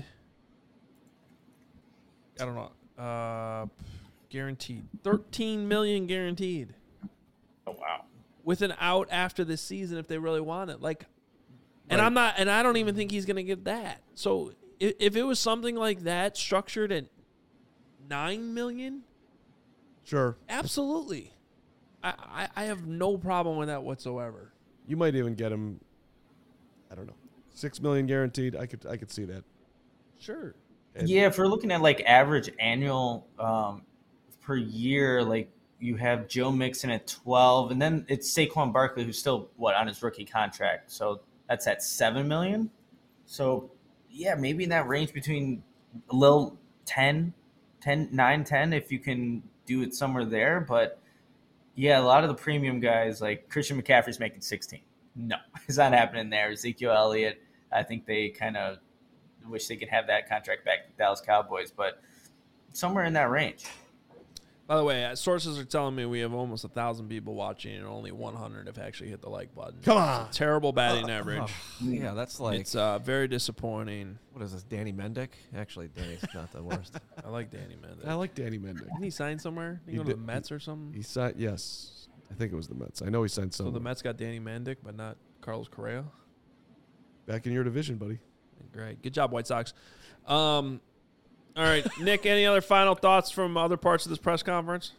I don't know. Guaranteed $13 million guaranteed. Oh wow. With an out after this season if they really want it. Like, and Right. I don't even think he's going to get that. So if it was something like that structured at $9 million, Sure. absolutely. I have no problem with that whatsoever. You might even get him, I don't know, $6 million guaranteed. I could see that. Sure. And Yeah, if we're looking at like average annual per year, like you have Joe Mixon at 12, and then it's Saquon Barkley who's still on his rookie contract, so that's at $7 million. So yeah, maybe in that range between a little 9, 10, if you can do it somewhere there. But yeah, a lot of the premium guys like Christian McCaffrey's making 16. No, it's not happening there. Ezekiel Elliott, I think they kind of wish they could have that contract back to the Dallas Cowboys, but somewhere in that range. By the way, sources are telling me we have almost 1,000 people watching and only 100 have actually hit the like button. Come on. It's a terrible batting average. Yeah, that's like It's very disappointing. what is this? Danny Mendick? Actually, Danny's not the worst. I like Danny Mendick. I like Danny Mendick. Didn't he sign somewhere? Did he He go to the did- Mets or something? He signed, yes. I think it was the Mets. I know he signed So some. the Mets got Danny Mendick, but not Carlos Correa. Back in your division, buddy. Great. Good job, White Sox. All right, Nick, any other final thoughts from other parts of this press conference?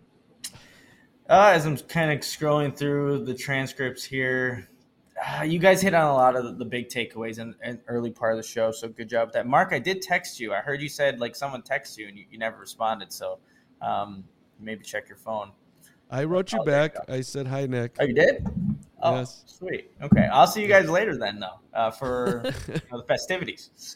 As I'm kind of scrolling through the transcripts here, you guys hit on a lot of the big takeaways in early part of the show, so good job with that. Mark, I did text you. I heard you said like someone texted you and you never responded, so maybe check your phone. I wrote you back. I said, hi, Nick. Oh, you did? Oh, Yes. sweet. Okay, I'll see you guys later then, though, for the festivities.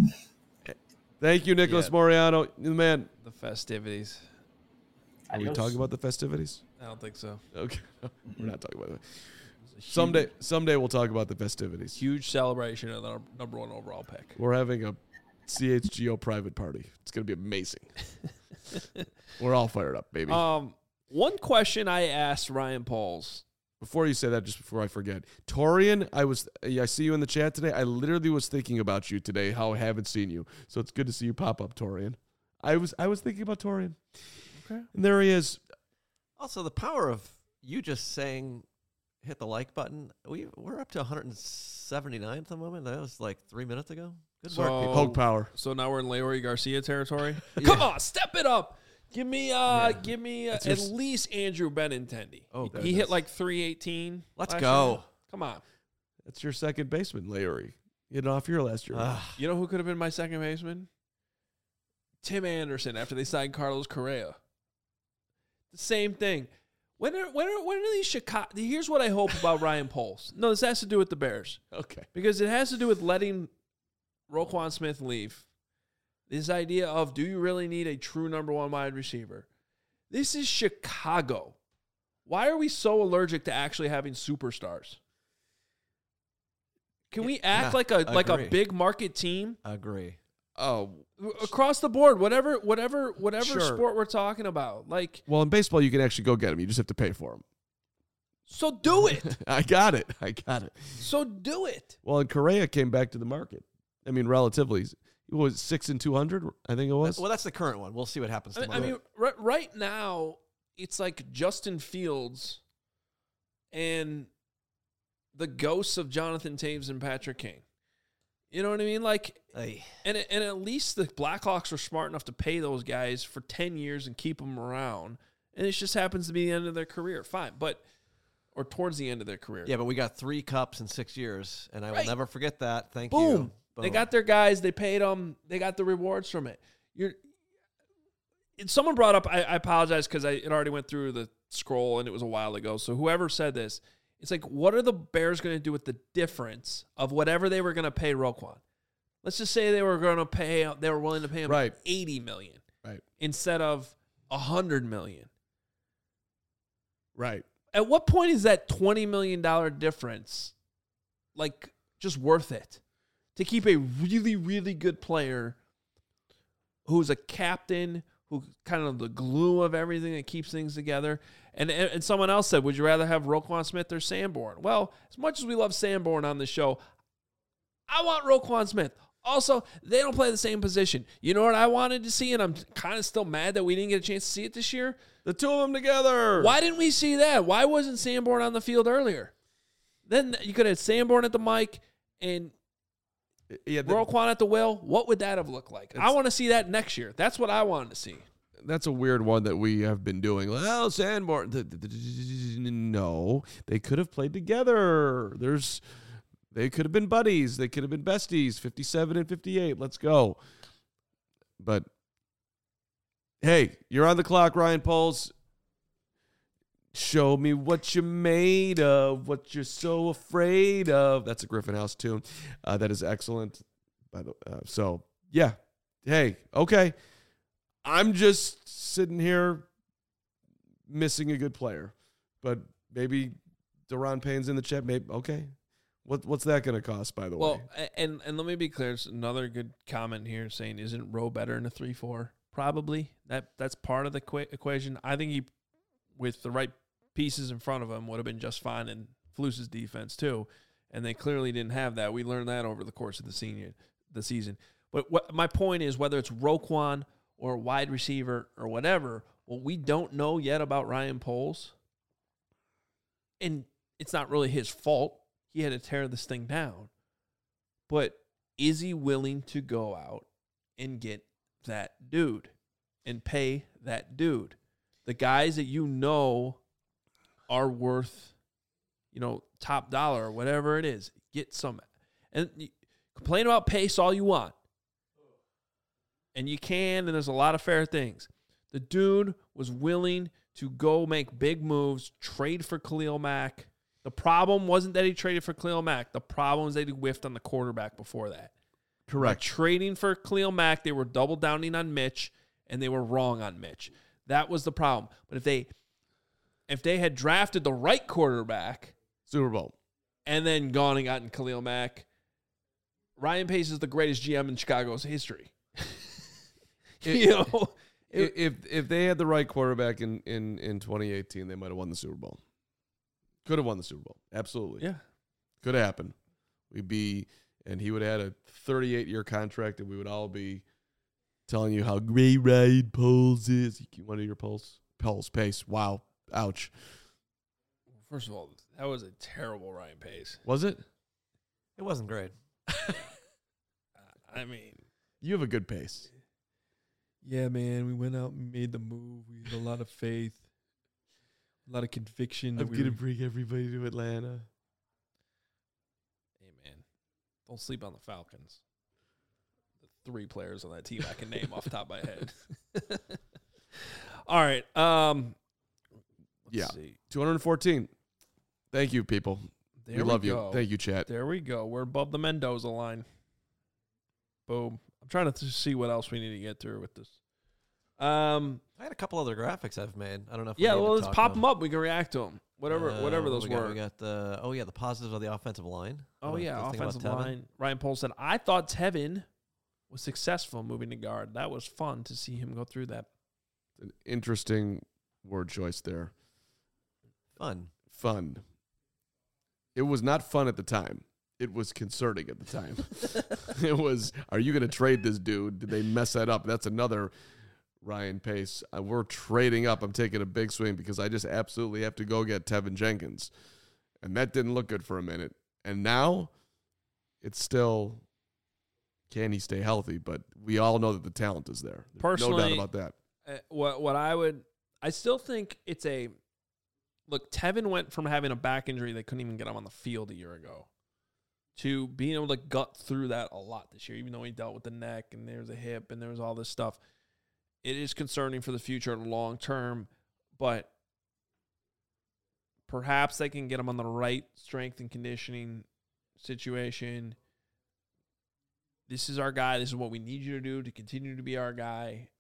Thank you, Nicholas Yeah. Moriano. The man. The festivities. Are we talking about the festivities? I don't think so. Okay. We're not talking about that. It's a huge- Someday we'll talk about the festivities. Huge celebration of the number one overall pick. We're having a CHGO private party. It's going to be amazing. We're all fired up, baby. One question I asked Ryan Pauls. Before you say that, just before I forget, Torian, I see you in the chat today. I literally was thinking about you today, how I haven't seen you. So it's good to see you pop up, Torian. I was thinking about Torian. Okay. And there he is. Also, the power of you just saying hit the like button. We're up to 179 at the moment. That was like 3 minutes ago. Good work, So- people. Hulk power. So now we're in Leroy Garcia territory. Come on, step it up. Give me at least Andrew Benintendi. Oh, he goodness. hit like 318. Let's last go. year. Come on. That's your second baseman, Larry. You hit off your last year. You know who could have been my second baseman? Tim Anderson after they signed Carlos Correa. The same thing. When are these Chicago? Here's what I hope about Ryan Pauls. No, this has to do with the Bears. Okay. Because it has to do with letting Roquan Smith leave. This idea of, do you really need a true number one wide receiver? This is Chicago. Why are we so allergic to actually having superstars? Can we act like a agree. big market team Agree. Oh, across the board? Whatever Sure. sport we're talking about, like, well, in baseball, you can actually go get him. You just have to pay for him. so do it. I got it. So do it. Well, and Correa came back to the market. I mean, relatively. It was 6 and 200, I think it was. Well, that's the current one. We'll see what happens tomorrow. I mean, right now, it's like Justin Fields and the ghosts of Jonathan Taves and Patrick King. You know what I mean? Like, Hey. and at least the Blackhawks were smart enough to pay those guys for 10 years and keep them around. And it just happens to be the end of their career. Fine. Or towards the end of their career. Yeah, but we got 3 cups in 6 years, and I will Right. never forget that. Thank Boom. you. They got their guys. They paid them. They got the rewards from it. Someone brought up, I apologize because it already went through the scroll and it was a while ago. So whoever said this, it's like, what are the Bears going to do with the difference of whatever they were going to pay Roquan? Let's just say they were willing to pay him Right. $80 million. Right. instead of $100 million. Right. At what point is that $20 million difference like just worth it to keep a really, really good player who's a captain, who kind of the glue of everything that keeps things together? And someone else said, would you rather have Roquan Smith or Sanborn? Well, as much as we love Sanborn on the show, I want Roquan Smith. Also, they don't play the same position. You know what I wanted to see, and I'm kind of still mad that we didn't get a chance to see it this year? The two of them together. Why didn't we see that? Why wasn't Sanborn on the field earlier? Then you could have Sanborn at the mic and Roquan at the wheel. What would that have looked like? I want to see that next year. That's what I wanted to see. That's a weird one that we have been doing. Well, Sanborn. No, they could have played together. They could have been buddies. They could have been besties. 57 and 58. Let's go. But hey, you're on the clock, Ryan Poles. Show me what you're made of, what you're so afraid of. That's a Griffin House tune. That is excellent. So, yeah. Hey, okay. I'm just sitting here missing a good player. But maybe Daron Payne's in the chat. Maybe, okay. What's that going to cost, by the way? Well, and let me be clear. There's another good comment here saying, isn't Rowe better in a 3-4? Probably. That's part of the equation. I think he, with the right pieces in front of him, would have been just fine in Flus's defense too. And they clearly didn't have that. We learned that over the course of the season. But my point is, whether it's Roquan or a wide receiver or whatever, what we don't know yet about Ryan Poles, and it's not really his fault. He had to tear this thing down. But is he willing to go out and get that dude and pay that dude? The guys that you know are worth, top dollar or whatever it is. Get some. And complain about pace all you want. And you can, and there's a lot of fair things. The dude was willing to go make big moves, trade for Khalil Mack. The problem wasn't that he traded for Khalil Mack. The problem was that he whiffed on the quarterback before that. Correct. By trading for Khalil Mack, they were double downing on Mitch, and they were wrong on Mitch. That was the problem. But if they had drafted the right quarterback, Super Bowl, and then gone and gotten Khalil Mack, Ryan Pace is the greatest GM in Chicago's history. If they had the right quarterback in 2018, they might have won the Super Bowl. Could have won the Super Bowl. Absolutely. Yeah. Could have happened. And he would have had a 38-year contract, and we would all be telling you how great Ryan Poles is. You want to hear Poles? Poles, Pace. Wow. Ouch. First of all, that was a terrible Ryan Pace. Was it? It wasn't great. I mean, you have a good pace. Yeah, man. We went out and made the move. We had a lot of faith, a lot of conviction. I'm going to bring everybody to Atlanta. Hey, man. Don't sleep on the Falcons. The 3 players on that team I can name off the top of my head. All right. Let's see. 214. Thank you, people. There we love go. you. Thank you, chat. There we go. We're above the Mendoza line. Boom. I'm trying to see what else we need to get through with this. I had a couple other graphics I've made. I don't know if let's pop them up. We can react to them. Whatever those were. We got the positives of the offensive line. Offensive line. Ryan Poles said, I thought Tevin was successful moving to guard. That was fun to see him go through that. An interesting word choice there. Fun. It was not fun at the time. It was concerning at the time. It was, are you going to trade this dude? Did they mess that up? That's another Ryan Pace. We're trading up. I'm taking a big swing because I just absolutely have to go get Tevin Jenkins. And that didn't look good for a minute. And now it's still, can he stay healthy? But we all know that the talent is there. Personally, no doubt about that. I still think it's look, Tevin went from having a back injury that couldn't even get him on the field a year ago to being able to gut through that a lot this year, even though he dealt with the neck and there's a hip and there's all this stuff. It is concerning for the future long term, but perhaps they can get him on the right strength and conditioning situation. This is our guy. This is what we need you to do to continue to be our guy.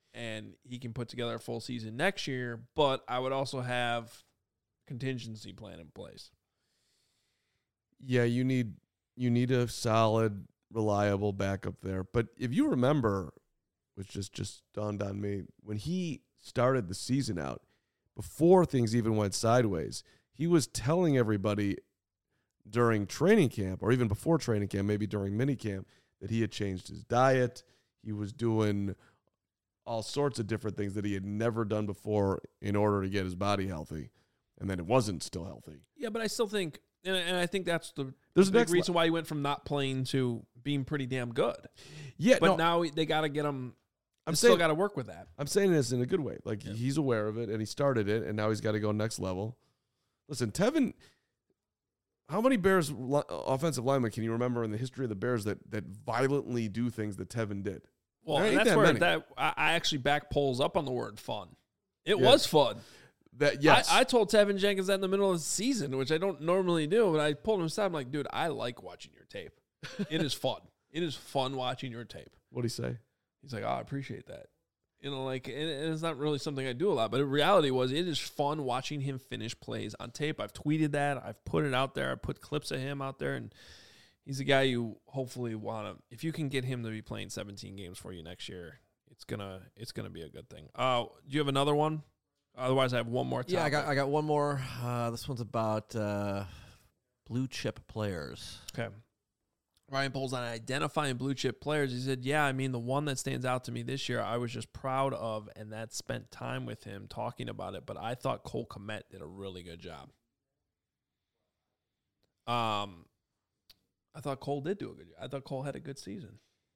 and he can put together a full season next year. But I would also have contingency plan in place. Yeah, you need a solid, reliable backup there. But if you remember, which just dawned on me, when he started the season out, before things even went sideways, he was telling everybody during training camp, or even before training camp, maybe during minicamp, that he had changed his diet. He was doing all sorts of different things that he had never done before in order to get his body healthy. And then it wasn't still healthy. Yeah, but I still think, and I think that's the There's big reason why he went from not playing to being pretty damn good. Yeah, But no, now they got to get him. I'm Still saying, got to work with that. I'm saying this in a good way. Like, he's aware of it, and he started it, and now he's got to go next level. Listen, Tevin, how many Bears offensive linemen can you remember in the history of the Bears that violently do things that Tevin did? Well, There and ain't that's that where many. I actually back polls up on the word fun. It Yeah. was fun. That yes, I told Tevin Jenkins that in the middle of the season, which I don't normally do, but I pulled him aside. I'm like, dude, I like watching your tape. It is fun. It is fun watching your tape. What'd he say? He's like, oh, I appreciate that. You know, like, and it's not really something I do a lot, but the reality was it is fun watching him finish plays on tape. I've tweeted that. I've put it out there. I put clips of him out there, and he's a guy you hopefully want to, if you can get him to be playing 17 games for you next year, it's gonna be a good thing. Do you have another one? Otherwise, I have one more topic. Yeah, I got one more. This one's about blue chip players. Okay. Ryan Poles on identifying blue chip players. He said, yeah, I mean, the one that stands out to me this year, I was just proud of, and that spent time with him talking about it. But I thought Cole Kmet did a really good job. I thought Cole did do a good job. I thought Cole had a good season.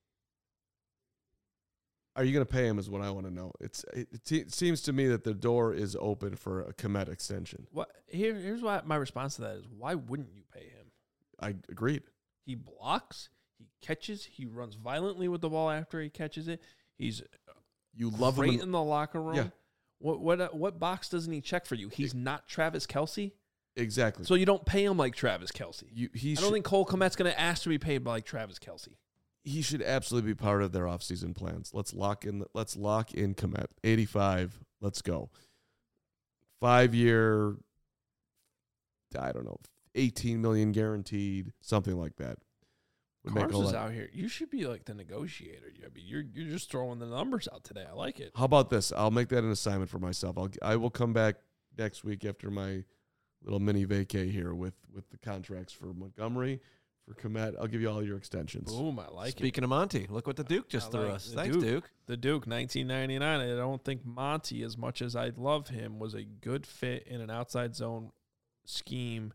Are you going to pay him is what I want to know. It seems to me that the door is open for a Kmet extension. Here's why my response to that is, why wouldn't you pay him? I agreed. He blocks, he catches, he runs violently with the ball after he catches it. He's You love him great in the locker room. Yeah. What box doesn't he check for you? He's not Travis Kelce. Exactly. So you don't pay him like Travis Kelce. I I don't think Cole Kmet's going to ask to be paid like Travis Kelce. he should absolutely be part of their offseason plans. Let's lock in Kmet. 85. Let's go. 5-year, I don't know, 18 million guaranteed, something like that. Cars is out here. You should be like the negotiator. I mean, you're just throwing the numbers out today. I like it. How about this? I'll make that an assignment for myself. I will come back next week after my little mini vacay here with the contracts for Montgomery, for Kmet. I'll give you all your extensions. Boom, I like it. Speaking of Monty, look what the Duke just threw us. Thanks, Duke. The Duke, 1999. I don't think Monty, as much as I love him, was a good fit in an outside zone scheme.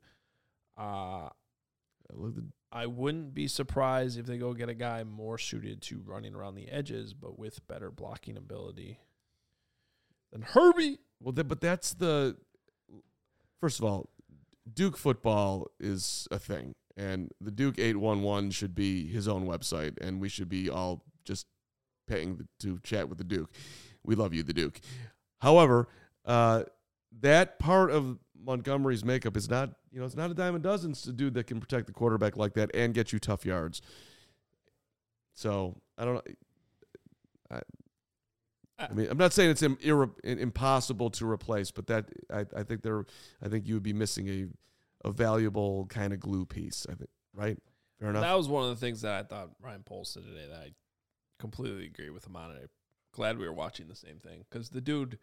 I wouldn't be surprised if they go get a guy more suited to running around the edges, but with better blocking ability than Herbie. Well, but that's the first of all, Duke football is a thing, and the Duke 811 should be his own website, and we should be all just paying to chat with the Duke. We love you, the Duke. However, that part of Montgomery's makeup is not, it's not a dime a dozen. It's a dude that can protect the quarterback like that and get you tough yards. So I don't know. I mean, I'm not saying it's impossible to replace, but that I think you would be missing a valuable kind of glue piece. I think, right? Fair enough. That was one of the things that I thought Ryan Poles said today that I completely agree with him on. I'm glad we were watching the same thing because the dude,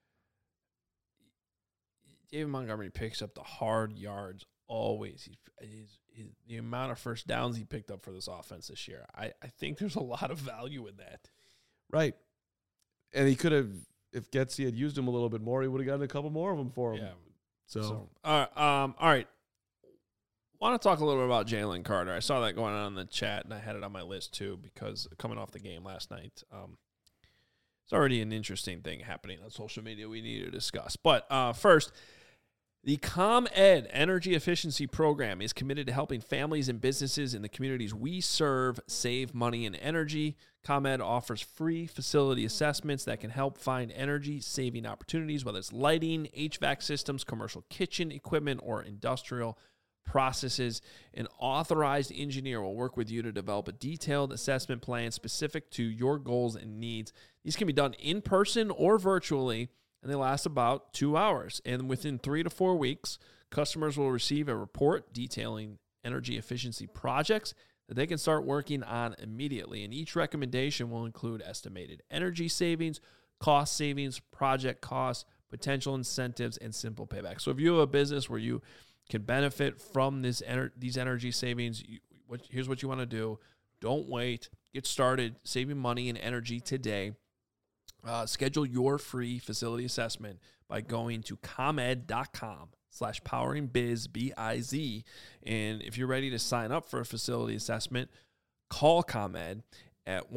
David Montgomery, picks up the hard yards always. The amount of first downs he picked up for this offense this year, I think there's a lot of value in that. Right. And he could have, if Getsy had used him a little bit more, he would have gotten a couple more of them for him. Yeah. So all right. Want to talk a little bit about Jalen Carter. I saw that going on in the chat, and I had it on my list too because coming off the game last night, it's already an interesting thing happening on social media we need to discuss. But first, the ComEd Energy Efficiency Program is committed to helping families and businesses in the communities we serve save money and energy. ComEd offers free facility assessments that can help find energy-saving opportunities, whether it's lighting, HVAC systems, commercial kitchen equipment, or industrial processes. An authorized engineer will work with you to develop a detailed assessment plan specific to your goals and needs. These can be done in person or virtually, and they last about 2 hours. And within 3 to 4 weeks, customers will receive a report detailing energy efficiency projects that they can start working on immediately. And each recommendation will include estimated energy savings, cost savings, project costs, potential incentives, and simple payback. So if you have a business where you can benefit from these energy savings, here's what you want to do. Don't wait. Get started saving money and energy today. Schedule your free facility assessment by going to comed.com/poweringbiz, B-I-Z. And if you're ready to sign up for a facility assessment, call ComEd at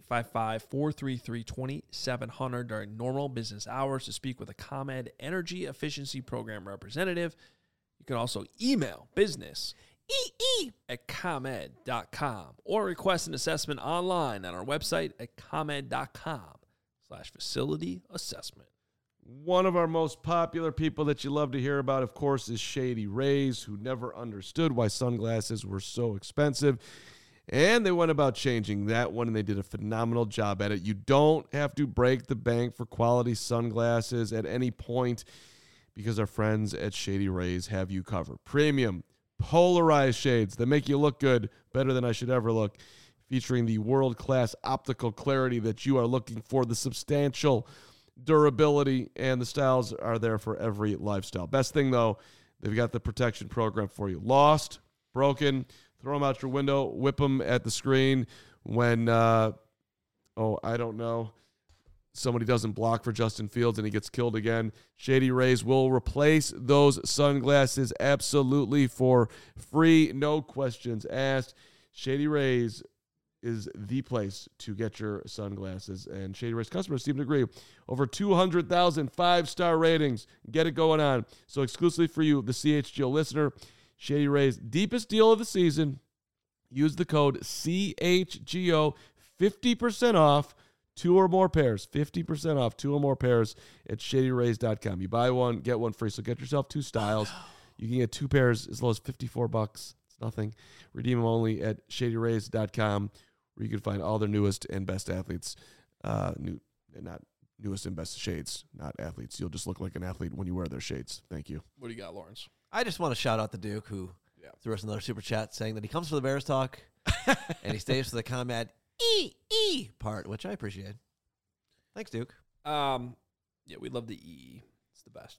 1-855-433-2700 during normal business hours to speak with a ComEd Energy Efficiency Program representative. You can also email business at comed.com or request an assessment online on our website at comed.com/facility assessment. One of our most popular people that you love to hear about, of course, is Shady Rays, who never understood why sunglasses were so expensive. And they went about changing that one, and they did a phenomenal job at it. You don't have to break the bank for quality sunglasses at any point because our friends at Shady Rays have you covered. Premium, polarized shades that make you look good, better than I should ever look, featuring the world-class optical clarity that you are looking for, the substantial durability, and the styles are there for every lifestyle. Best thing, though, they've got the protection program for you. Lost, broken, throw them out your window, whip them at the screen when, I don't know, somebody doesn't block for Justin Fields and he gets killed again. Shady Rays will replace those sunglasses absolutely for free, no questions asked. Shady Rays is the place to get your sunglasses, and Shady Rays customers seem to agree. Over 200,000 five-star ratings. Get it going on. So exclusively for you, the CHGO listener, Shady Rays' deepest deal of the season. Use the code CHGO, 50% off 2 or more pairs. 50% off 2 or more pairs at shadyrays.com. You buy one, get one free. So get yourself 2 styles. You can get 2 pairs as low as $54. It's nothing. Redeem them only at shadyrays.com, where you can find all their newest and best athletes. Not newest and best shades, not athletes. You'll just look like an athlete when you wear their shades. Thank you. What do you got, Lawrence? I just want to shout out the Duke, who threw us another super chat saying that he comes for the Bears talk and he stays for the ComEd part, which I appreciate. Thanks, Duke. Yeah, we love the E. It's the best.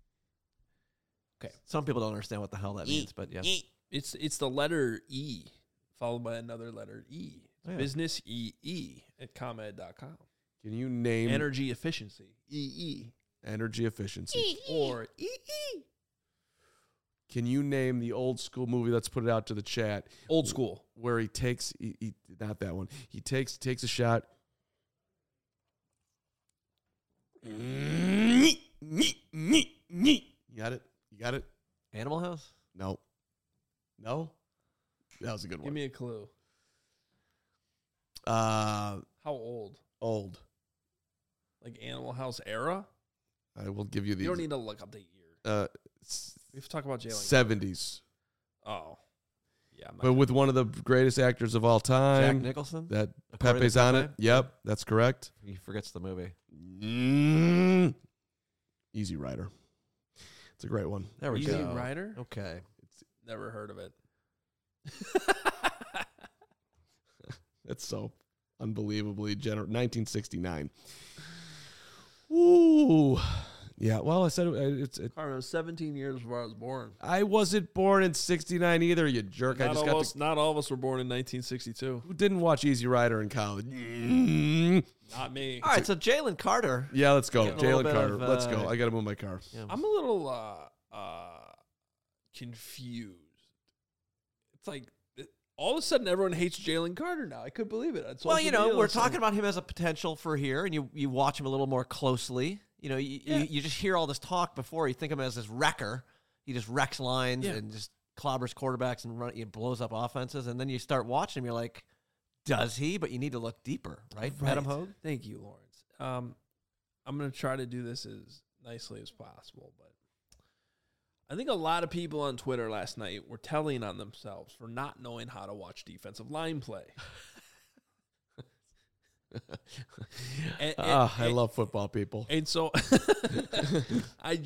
Okay. Some people don't understand what the hell that means, but yeah. It's the letter E followed by another letter E. Oh, yeah. Business EE at ComEd.com. Can you name Energy efficiency. EE. energy efficiency? Or EE. Can you name the old school movie? Let's put it out to the chat. Old school. Where he takes, not that one. He takes a shot. You got it? You got it? Animal House? No. No? That was a good Give one. me a clue. How How old? old? Like Animal House era? I will give you the You don't need to look up the year. We have to talk about Jalen. 70s. Oh. Yeah. I'm not But with one of the greatest actors of all time. Jack Nicholson? That According to Pepe's on it. Pepe? Yep, that's correct. He forgets the movie. Easy Rider. It's a great one. There we Easy go. Rider? Okay. Never heard of it. That's so unbelievably generous. 1969. Ooh. Yeah, well, I said it's. Carmen, it was 17 years before I was born. I wasn't born in 69 either, you jerk. Not all of us were born in 1962. Who didn't watch Easy Rider in college? Not me. All right, so Jalen Carter. Yeah, let's go. Getting a little Jalen bit Carter. of, Let's go. I got to move my car. Yeah. I'm a little confused. It's like all of a sudden everyone hates Jalen Carter now. I couldn't believe it. Well, you know, we're talking about him as a potential for here, and you watch him a little more closely. You know, you just hear all this talk before. You think of him as this wrecker. He just wrecks lines and just clobbers quarterbacks and he blows up offenses. And then you start watching him, you're like, does he? But you need to look deeper, right? Adam Hogue? Thank you, Lawrence. I'm going to try to do this as nicely as possible, but I think a lot of people on Twitter last night were telling on themselves for not knowing how to watch defensive line play. I love football people. And so I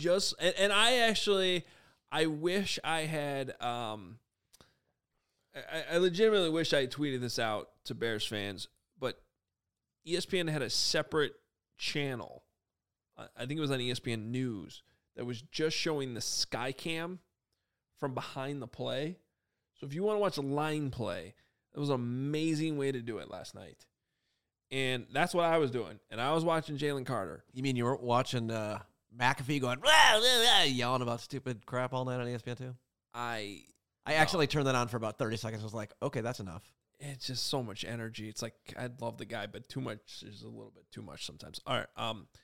wish I had, I legitimately wish I had tweeted this out to Bears fans, but ESPN had a separate channel. I think it was on ESPN News that was just showing the sky cam from behind the play. So if you want to watch a line play, it was an amazing way to do it last night. And that's what I was doing. And I was watching Jalen Carter. You mean you weren't watching McAfee going, yelling about stupid crap all night on ESPN too? I actually turned that on for about 30 seconds. I was like, okay, that's enough. It's just so much energy. It's like, I love the guy, but too much is a little bit too much sometimes. All right.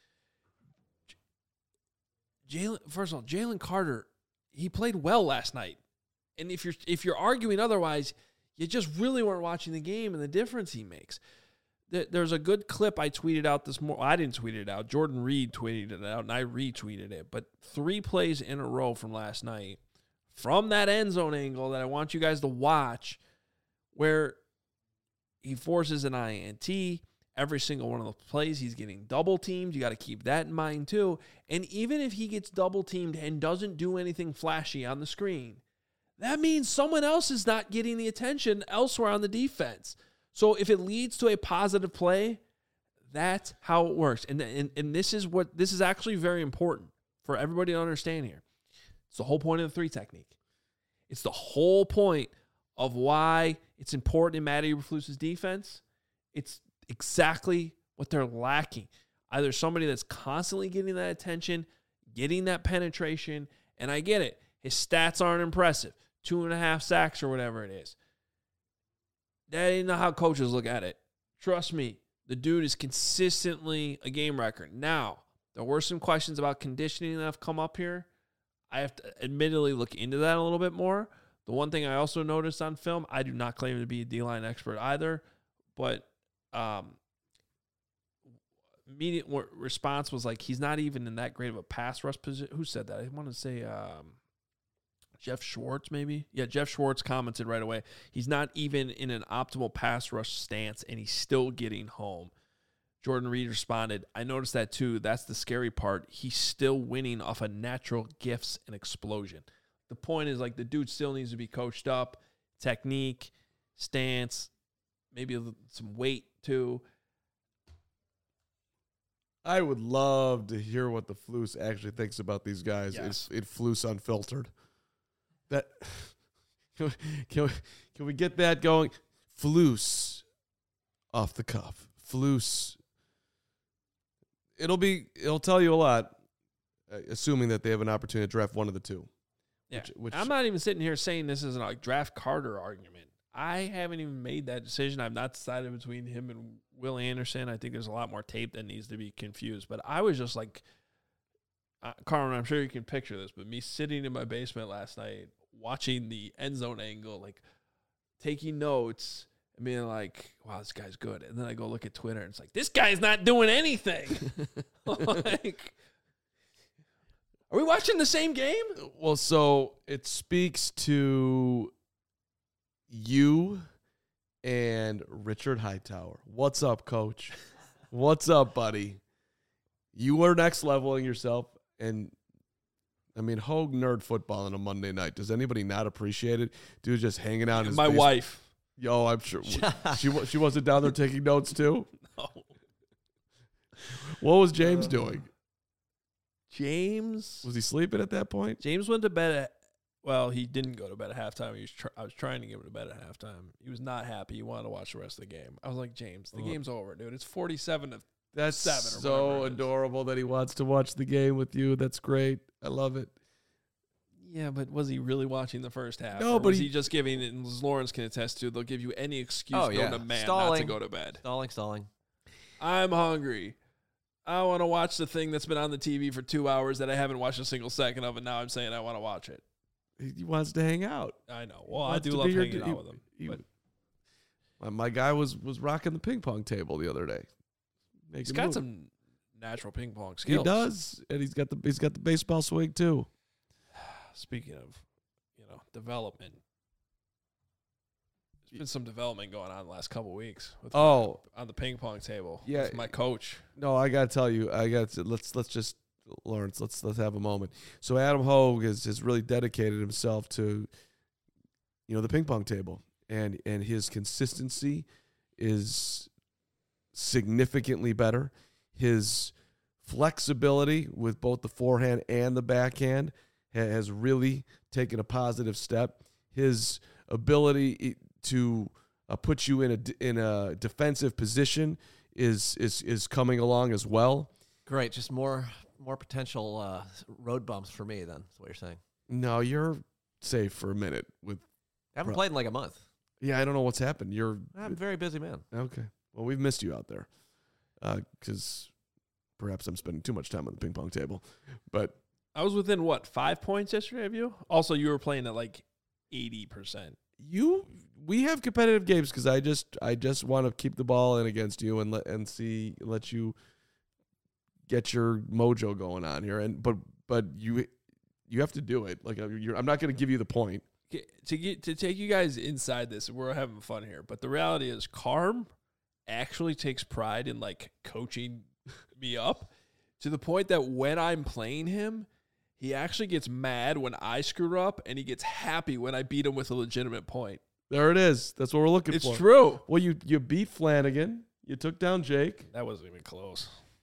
First of all, Jalen Carter, he played well last night. And if you're arguing otherwise, you just really weren't watching the game and the difference he makes. There's a good clip I tweeted out this morning. Well, I didn't tweet it out. Jordan Reed tweeted it out, and I retweeted it. But 3 plays in a row from last night, from that end zone angle that I want you guys to watch, where he forces an INT. Every single one of the plays, he's getting double-teamed. You got to keep that in mind, too. And even if he gets double-teamed and doesn't do anything flashy on the screen, that means someone else is not getting the attention elsewhere on the defense. So if it leads to a positive play, that's how it works. And this is actually very important for everybody to understand here. It's the whole point of the 3 technique. It's the whole point of why it's important in Matt Eberflus's defense. It's exactly what they're lacking. Either somebody that's constantly getting that attention, getting that penetration, and I get it. His stats aren't impressive. 2.5 sacks or whatever it is. That ain't not how coaches look at it. Trust me, the dude is consistently a game wrecker. Now, there were some questions about conditioning that have come up here. I have to admittedly look into that a little bit more. The one thing I also noticed on film, I do not claim to be a D-line expert either, but immediate response was like, he's not even in that great of a pass rush position. Who said that? I want to say Jeff Schwartz, maybe? Yeah, Jeff Schwartz commented right away. He's not even in an optimal pass rush stance, and he's still getting home. Jordan Reed responded, I noticed that too. That's the scary part. He's still winning off of natural gifts and explosion. The point is, like, the dude still needs to be coached up. Technique, stance, maybe some weight too. I would love to hear what the Flus actually thinks about these guys. Yes. It Flus Unfiltered. That can we get that going? Flus off the cuff. Flus. It'll tell you a lot, assuming that they have an opportunity to draft one of the 2. Yeah, I'm not even sitting here saying this is a draft Carter argument. I haven't even made that decision. I've not decided between him and Will Anderson. I think there's a lot more tape that needs to be confused. But I was just like, Carmen, I'm sure you can picture this, but me sitting in my basement last night, watching the end zone angle, like taking notes and being like, wow, this guy's good. And then I go look at Twitter and it's like, this guy's not doing anything. Like, are we watching the same game? Well, so it speaks to you and Richard Hightower. What's up, coach? What's up, buddy? You are next leveling yourself. And I mean, Hogue nerd football on a Monday night. Does anybody not appreciate it? Dude, just hanging out in his My basement. wife. Yo, I'm sure she wasn't down there taking notes too. No. What was James doing? James Was he sleeping at that point? James went to bed at. Well, he didn't go to bed at halftime. I was trying to get him to bed at halftime. He was not happy. He wanted to watch the rest of the game. I was like, James, the game's over, dude. It's 47-7. That's 7 or so whatever it is. adorable that he wants to watch the game with you. That's great. I love it. Yeah, but was he really watching the first half? No, or but was he just giving it, and as Lawrence can attest to, they'll give you any excuse known to man not to go to bed. Stalling. I'm hungry. I want to watch the thing that's been on the TV for 2 hours that I haven't watched a single second of, and now I'm saying I want to watch it. He wants to hang out. I know. Well, I do love hanging out with him. But My guy was rocking the ping pong table the other day. he's got some natural ping pong skills. He does, and he's got the baseball swing too. speaking of, development, there's been some development going on the last couple of weeks. On the ping pong table. Yeah. With my coach. No, I gotta tell you, let's just Lawrence, let's have a moment. So Adam Hogue has really dedicated himself to, the ping pong table, and his consistency is significantly better. His flexibility with both the forehand and the backhand has really taken a positive step. His ability to put you in a defensive position is coming along as well. Great, just more potential road bumps for me. Then is what you're saying. No, you're safe for a minute. I haven't played in like a month. Yeah, I don't know what's happened. I'm a very busy man. Okay. Well, we've missed you out there because perhaps I'm spending too much time on the ping pong table. But I was within 5 points yesterday of you. Also, you were playing at like 80%. We have competitive games because I just want to keep the ball in against you and let you get your mojo going on here. But you have to do it. Like I'm not going to give you the point. To take you guys inside this, we're having fun here. But the reality is, Carm actually takes pride in like coaching me up to the point that when I'm playing him, he actually gets mad when I screw up, and he gets happy when I beat him with a legitimate point. There it is. That's what we're looking for. It's true. Well, you beat Flanagan. You took down Jake. That wasn't even close.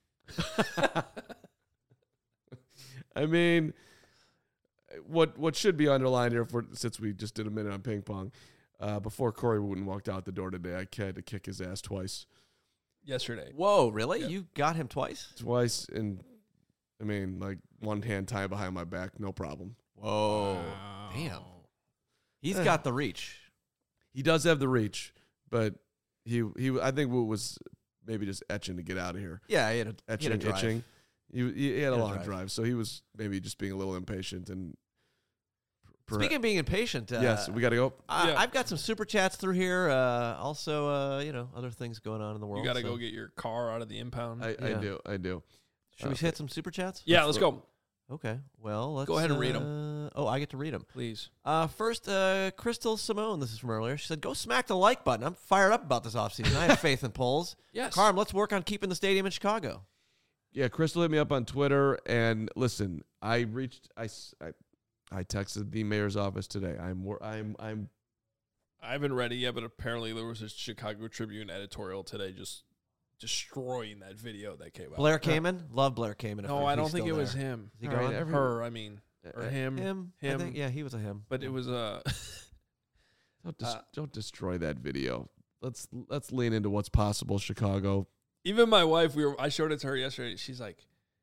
I mean, what should be underlined here, since we just did a minute on ping pong, before Corey Wooten walked out the door today, I had to kick his ass twice. Yesterday. Whoa, really? Yeah. You got him twice? Twice, and I mean, like one hand tied behind my back, no problem. Whoa. Wow. Damn. He's got the reach. He does have the reach, but he I think Woot was maybe just etching to get out of here. Yeah, he had a drive. Itching. He had a long drive. drive, so he was maybe just being a little impatient. And speaking of being impatient, yes, we got to go. I've got some super chats through here. Also, other things going on in the world. You got to go get your car out of the impound. I do. Should we hit some super chats? Yeah, let's go. Okay. Well, let's go ahead and read them. Oh, I get to read them. Please. First, Crystal Simone. This is from earlier. She said, "Go smack the like button. I'm fired up about this offseason. I have faith in polls." Yes. Carm, let's work on keeping the stadium in Chicago. Yeah, Crystal hit me up on Twitter, and listen, I texted the mayor's office today. I haven't read it yet, but apparently there was a Chicago Tribune editorial today just destroying that video that came out. Blair Kamen? Love Blair Kamen. No, I don't think it was him. Is he gone? Her, I mean. Or him. Him. I think, yeah, he was a him. But it was a... Don't destroy that video. Let's lean into what's possible, Chicago. Even my wife, I showed it to her yesterday. She's like,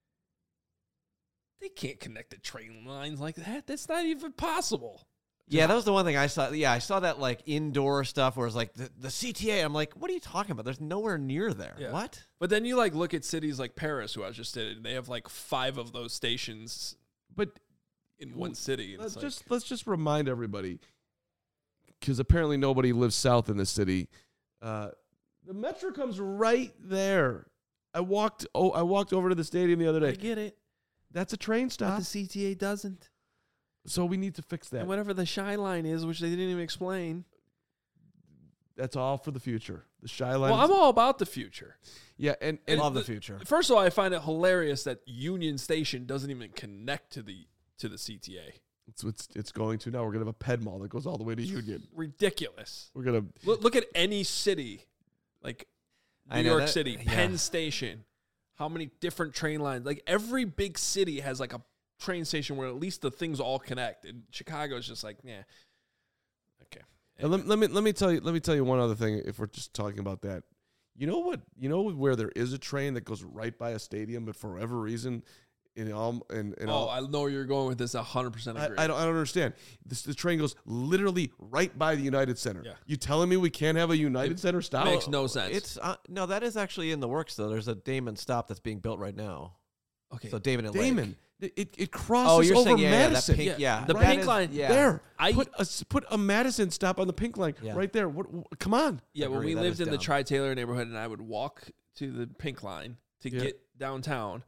they can't connect the train lines like that. That's not even possible. Yeah, that was the one thing I saw. Yeah, I saw that like indoor stuff where it's like the CTA. I'm like, what are you talking about? There's nowhere near there. Yeah. What? But then you like look at cities like Paris, who I just did, and they have like 5 of those stations, but in one city. Let's just remind everybody, because apparently nobody lives south in the city. The metro comes right there. I walked over to the stadium the other day. I get it. That's a train stop. But the CTA doesn't. So we need to fix that. And whatever the Shy Line is, which they didn't even explain. That's all for the future. The Shy Line. Well, I'm all about the future. Yeah, and love the future. First of all, I find it hilarious that Union Station doesn't even connect to the CTA. It's going to now. We're gonna have a Ped Mall that goes all the way to Union. Ridiculous. We're gonna look at any city, like New York City, yeah. Penn Station. How many different train lines? Like every big city has like a train station where at least the things all connect. And Chicago is just like, yeah. Okay. And let me tell you one other thing. If we're just talking about that, you know what? You know where there is a train that goes right by a stadium, but for whatever reason, I know where you're going with this. 100% agree. I don't understand. The train goes literally right by the United Center. Yeah. You telling me we can't have a United Center stop? Makes no sense. It's no, that is actually in the works though. There's a Damon stop that's being built right now. Okay. So Damon and Lake. It crosses over Madison. That pink, the pink line. Yeah. There. Put a Madison stop on the pink line right there. Come on. Yeah, when we That lived is in the dumb. Tri-Taylor neighborhood, and I would walk to the pink line to get downtown,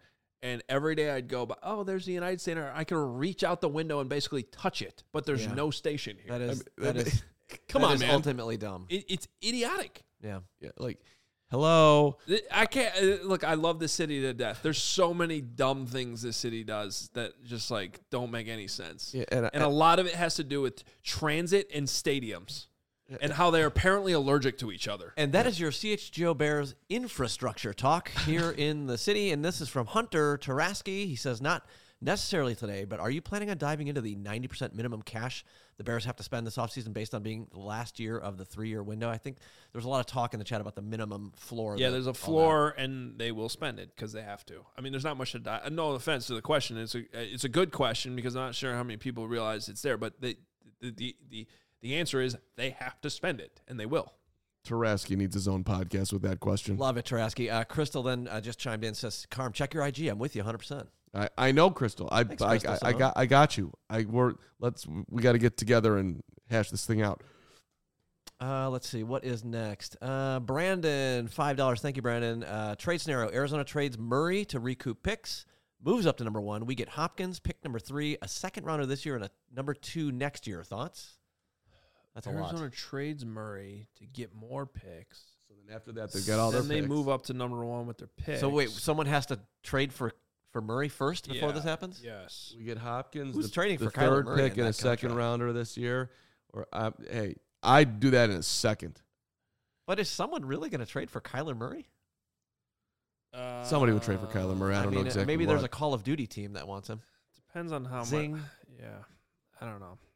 And every day I'd go, oh, there's the United Center. I can reach out the window and basically touch it, but there's no station here. That is Come that on, is man. ultimately dumb. It's idiotic. Yeah. Yeah, like, hello. I can't look. I love this city to death. There's so many dumb things this city does that just like don't make any sense. Yeah, and a lot of it has to do with transit and stadiums and how they're apparently allergic to each other. And that is your CHGO Bears infrastructure talk here in the city. And this is from Hunter Taraski. He says, not necessarily today, but are you planning on diving into the 90% minimum cash the Bears have to spend this offseason based on being the last year of the 3-year window? I think there was a lot of talk in the chat about the minimum floor. Yeah, there's a floor, and they will spend it because they have to. I mean, there's not much to dive. No offense to the question. It's a good question because I'm not sure how many people realize it's there, but the answer is they have to spend it, and they will. Taraski needs his own podcast with that question. Love it, Taraski. Crystal then just chimed in and says, Carm, check your IG. I'm with you 100%. I know, Crystal. Thanks, Crystal, I got you. We got to get together and hash this thing out. Let's see. What is next? Brandon, $5. Thank you, Brandon. Trade scenario. Arizona trades Murray to recoup picks. Moves up to number 1. We get Hopkins, pick number 3, a second rounder this year, and a number 2 next year. Thoughts? That's a lot. Arizona trades Murray to get more picks. So then after that, they've got all their Then they picks. move up to number 1 with their picks. So wait, someone has to trade for Murray first before this happens? Yes. We get Hopkins, Who's the trading the for Kyler third Murray pick in and a that second contract? rounder this year. Or hey, I'd do that in a second. But is someone really going to trade for Kyler Murray? Somebody would trade for Kyler Murray. I don't know exactly. Maybe there's a what. Call of Duty team that wants him. Depends on how Zing. much. Yeah. I don't know.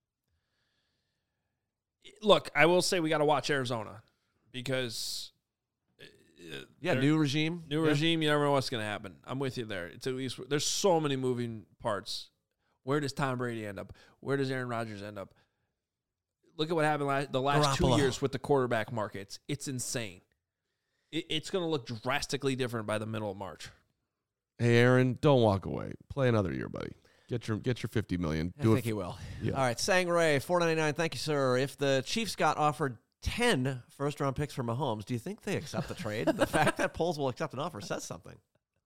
Look, I will say we got to watch Arizona because Yeah, new regime. regime, you never know what's going to happen. I'm with you there. It's at least there's so many moving parts. Where does Tom Brady end up? Where does Aaron Rodgers end up? Look at what happened the last Garoppolo. 2 years with the quarterback markets. It's insane. It's going to look drastically different by the middle of March. Hey, Aaron, don't walk away. Play another year, buddy. Get your $50 million. I think he will. Yeah. All right, Sangray, $4.99. Thank you, sir. If the Chiefs got offered 10 first-round picks for Mahomes, do you think they accept the trade? The fact that Poles will accept an offer says something.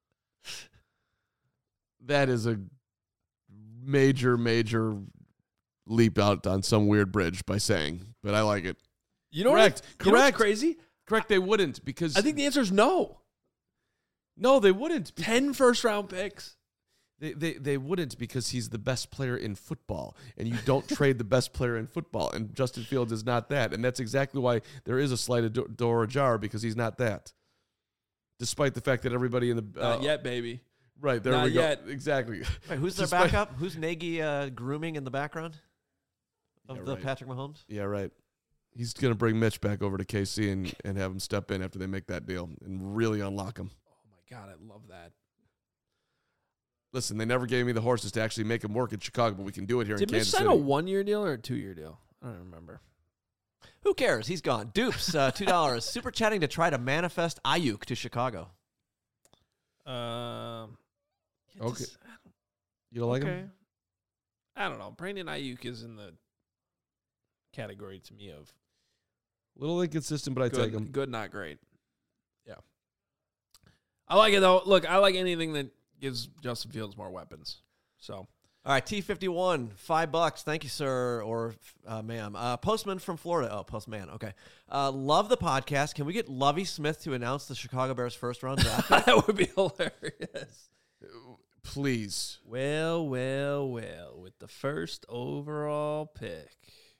That is a major leap out on some weird bridge by saying, but I like it. You know Correct. What, you know what's Correct. crazy? Correct, they wouldn't because I think the answer is no. no, they wouldn't. 10 first-round picks. They wouldn't because he's the best player in football, and you don't trade the best player in football, and Justin Fields is not that, and that's exactly why there is a slight door ajar because he's not that. Despite the fact that everybody in the Not yet, baby. right there Not we go yet. exactly. Wait, who's their Despite- backup? Who's Nagy grooming in the background of Yeah, the right. Patrick Mahomes? Yeah, right. He's gonna bring Mitch back over to KC and have him step in after they make that deal and really unlock him. Oh, my God, I love that. Listen, they never gave me the horses to actually make him work in Chicago, but we can do it here Did in Mitch Kansas sign City. a 1-year deal or a 2-year deal? I don't remember. Who cares? He's gone. Dupes, $2. Super chatting to try to manifest Ayuk to Chicago. Okay. just- You don't like okay. him? I don't know. Brandon Ayuk is in the category to me of Little inconsistent, but I take him. good, not great. Yeah. I like it, though. Look, I like anything that gives Justin Fields more weapons. So, All right, T51, $5. Thank you, sir, or ma'am. Postman from Florida. Oh, Postman. Okay. Love the podcast. Can we get Lovie Smith to announce the Chicago Bears first-round draft pick? that would be hilarious. Please. Well, with the first overall pick,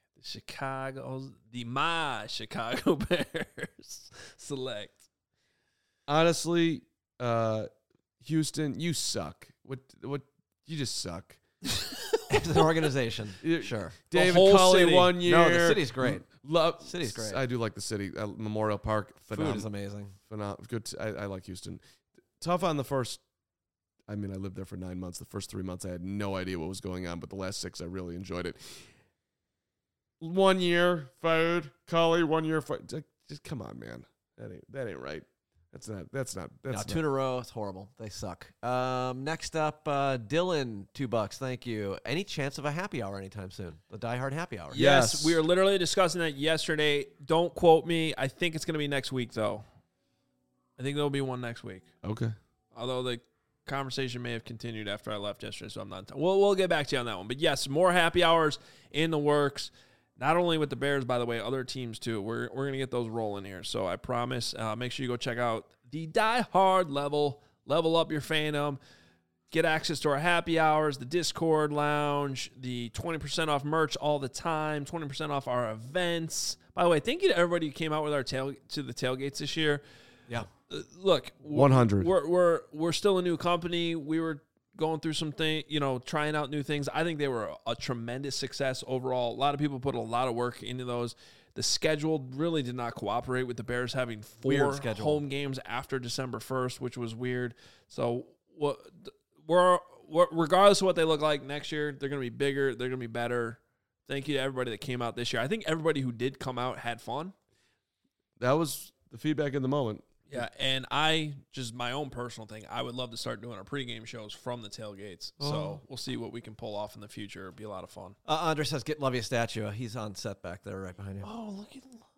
my Chicago Bears select. Honestly, Houston, you suck. What you just suck. As an organization. Yeah. Sure. David whole Culley city. 1 year. No, the city's great. City's great. I do like the city. Memorial Park. Food is amazing. Good. I like Houston. Tough on the first. I mean, I lived there for 9 months. The first 3 months, I had no idea what was going on, but the last 6, I really enjoyed it. 1 year fired. Culley 1 year fired. Just come on, man. That ain't right. That's not. No, 2 in a row. It's horrible. They suck. Next up, Dylan, $2. Thank you. Any chance of a happy hour anytime soon? The Die Hard happy hour. Yes. We were literally discussing that yesterday. Don't quote me. I think it's going to be next week, though. I think there'll be one next week. Okay. Although the conversation may have continued after I left yesterday, so I'm not. We'll get back to you on that one. But yes, more happy hours in the works. Not only with the Bears, by the way, other teams too. We're gonna get those rolling here. So I promise. Make sure you go check out the Die Hard level up your fandom. Get access to our happy hours, the Discord lounge, the 20% off merch all the time, 20% off our events. By the way, thank you to everybody who came out with our to the tailgates this year. Yeah. Look, 100. We're still a new company. We were going through some things, trying out new things. I think they were a tremendous success overall. A lot of people put a lot of work into those. The schedule really did not cooperate with the Bears having 4 home games after December 1st, which was weird. So we're regardless of what they look like next year, they're going to be bigger. They're going to be better. Thank you to everybody that came out this year. I think everybody who did come out had fun. That was the feedback in the moment. Yeah, and just my own personal thing, I would love to start doing our pregame shows from the tailgates. So we'll see what we can pull off in the future. It'll be a lot of fun. Andres says, get Lovey a statue. He's on set back there right behind you. Oh, look at Lovey.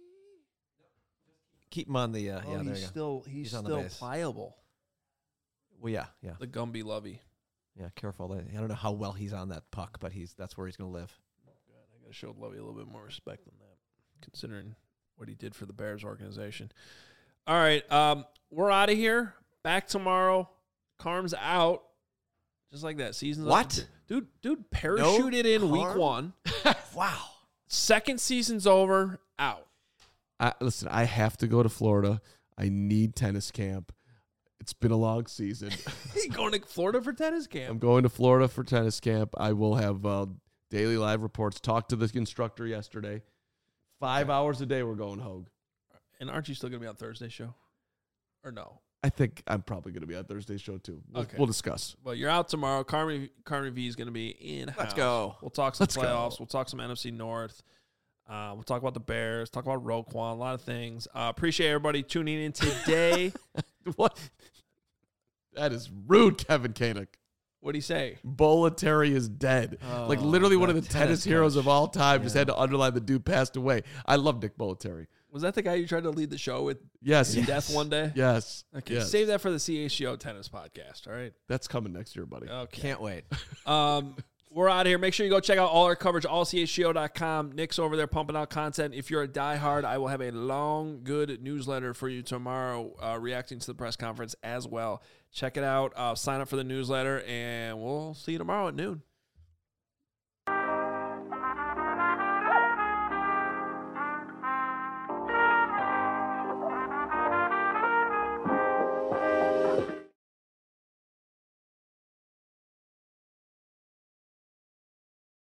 Keep him on the, there you go. He's on the still base. pliable. Well, yeah. The Gumby Lovey. Yeah, careful. I don't know how well he's on that puck, but that's where he's going to live. I got to show Lovey a little bit more respect than that, considering what he did for the Bears organization. All right, we're out of here. Back tomorrow. Carm's out. Just like that. Season's what? Up. Dude, parachuted in week 1. Wow. Second season's over. Out. Listen, I have to go to Florida. I need tennis camp. It's been a long season. You going to Florida for tennis camp? I'm going to Florida for tennis camp. I will have daily live reports. Talked to the instructor yesterday. 5 hours a day we're going Hogue. And aren't you still going to be on Thursday's show? Or no? I think I'm probably going to be on Thursday's show too. We'll discuss. Well, you're out tomorrow. Carmen V is going to be in-house. Let's go. We'll talk some playoffs. We'll talk some NFC North. We'll talk about the Bears. Talk about Roquan. A lot of things. Appreciate everybody tuning in today. What? That is rude, Kevin Koenig. What'd he say? Bolletary is dead. Like literally one of the tennis heroes of all time. Just had to underline the dude passed away. I love Nick Bolletary. Was that the guy you tried to lead the show with? Yes. Death one day? Yes. Okay. Yes. Save that for the CHGO tennis podcast. All right. That's coming next year, buddy. Okay. Can't wait. We're out of here. Make sure you go check out all our coverage, allchgo.com. Nick's over there pumping out content. If you're a diehard, I will have a long, good newsletter for you tomorrow reacting to the press conference as well. Check it out. Sign up for the newsletter, and we'll see you tomorrow at noon.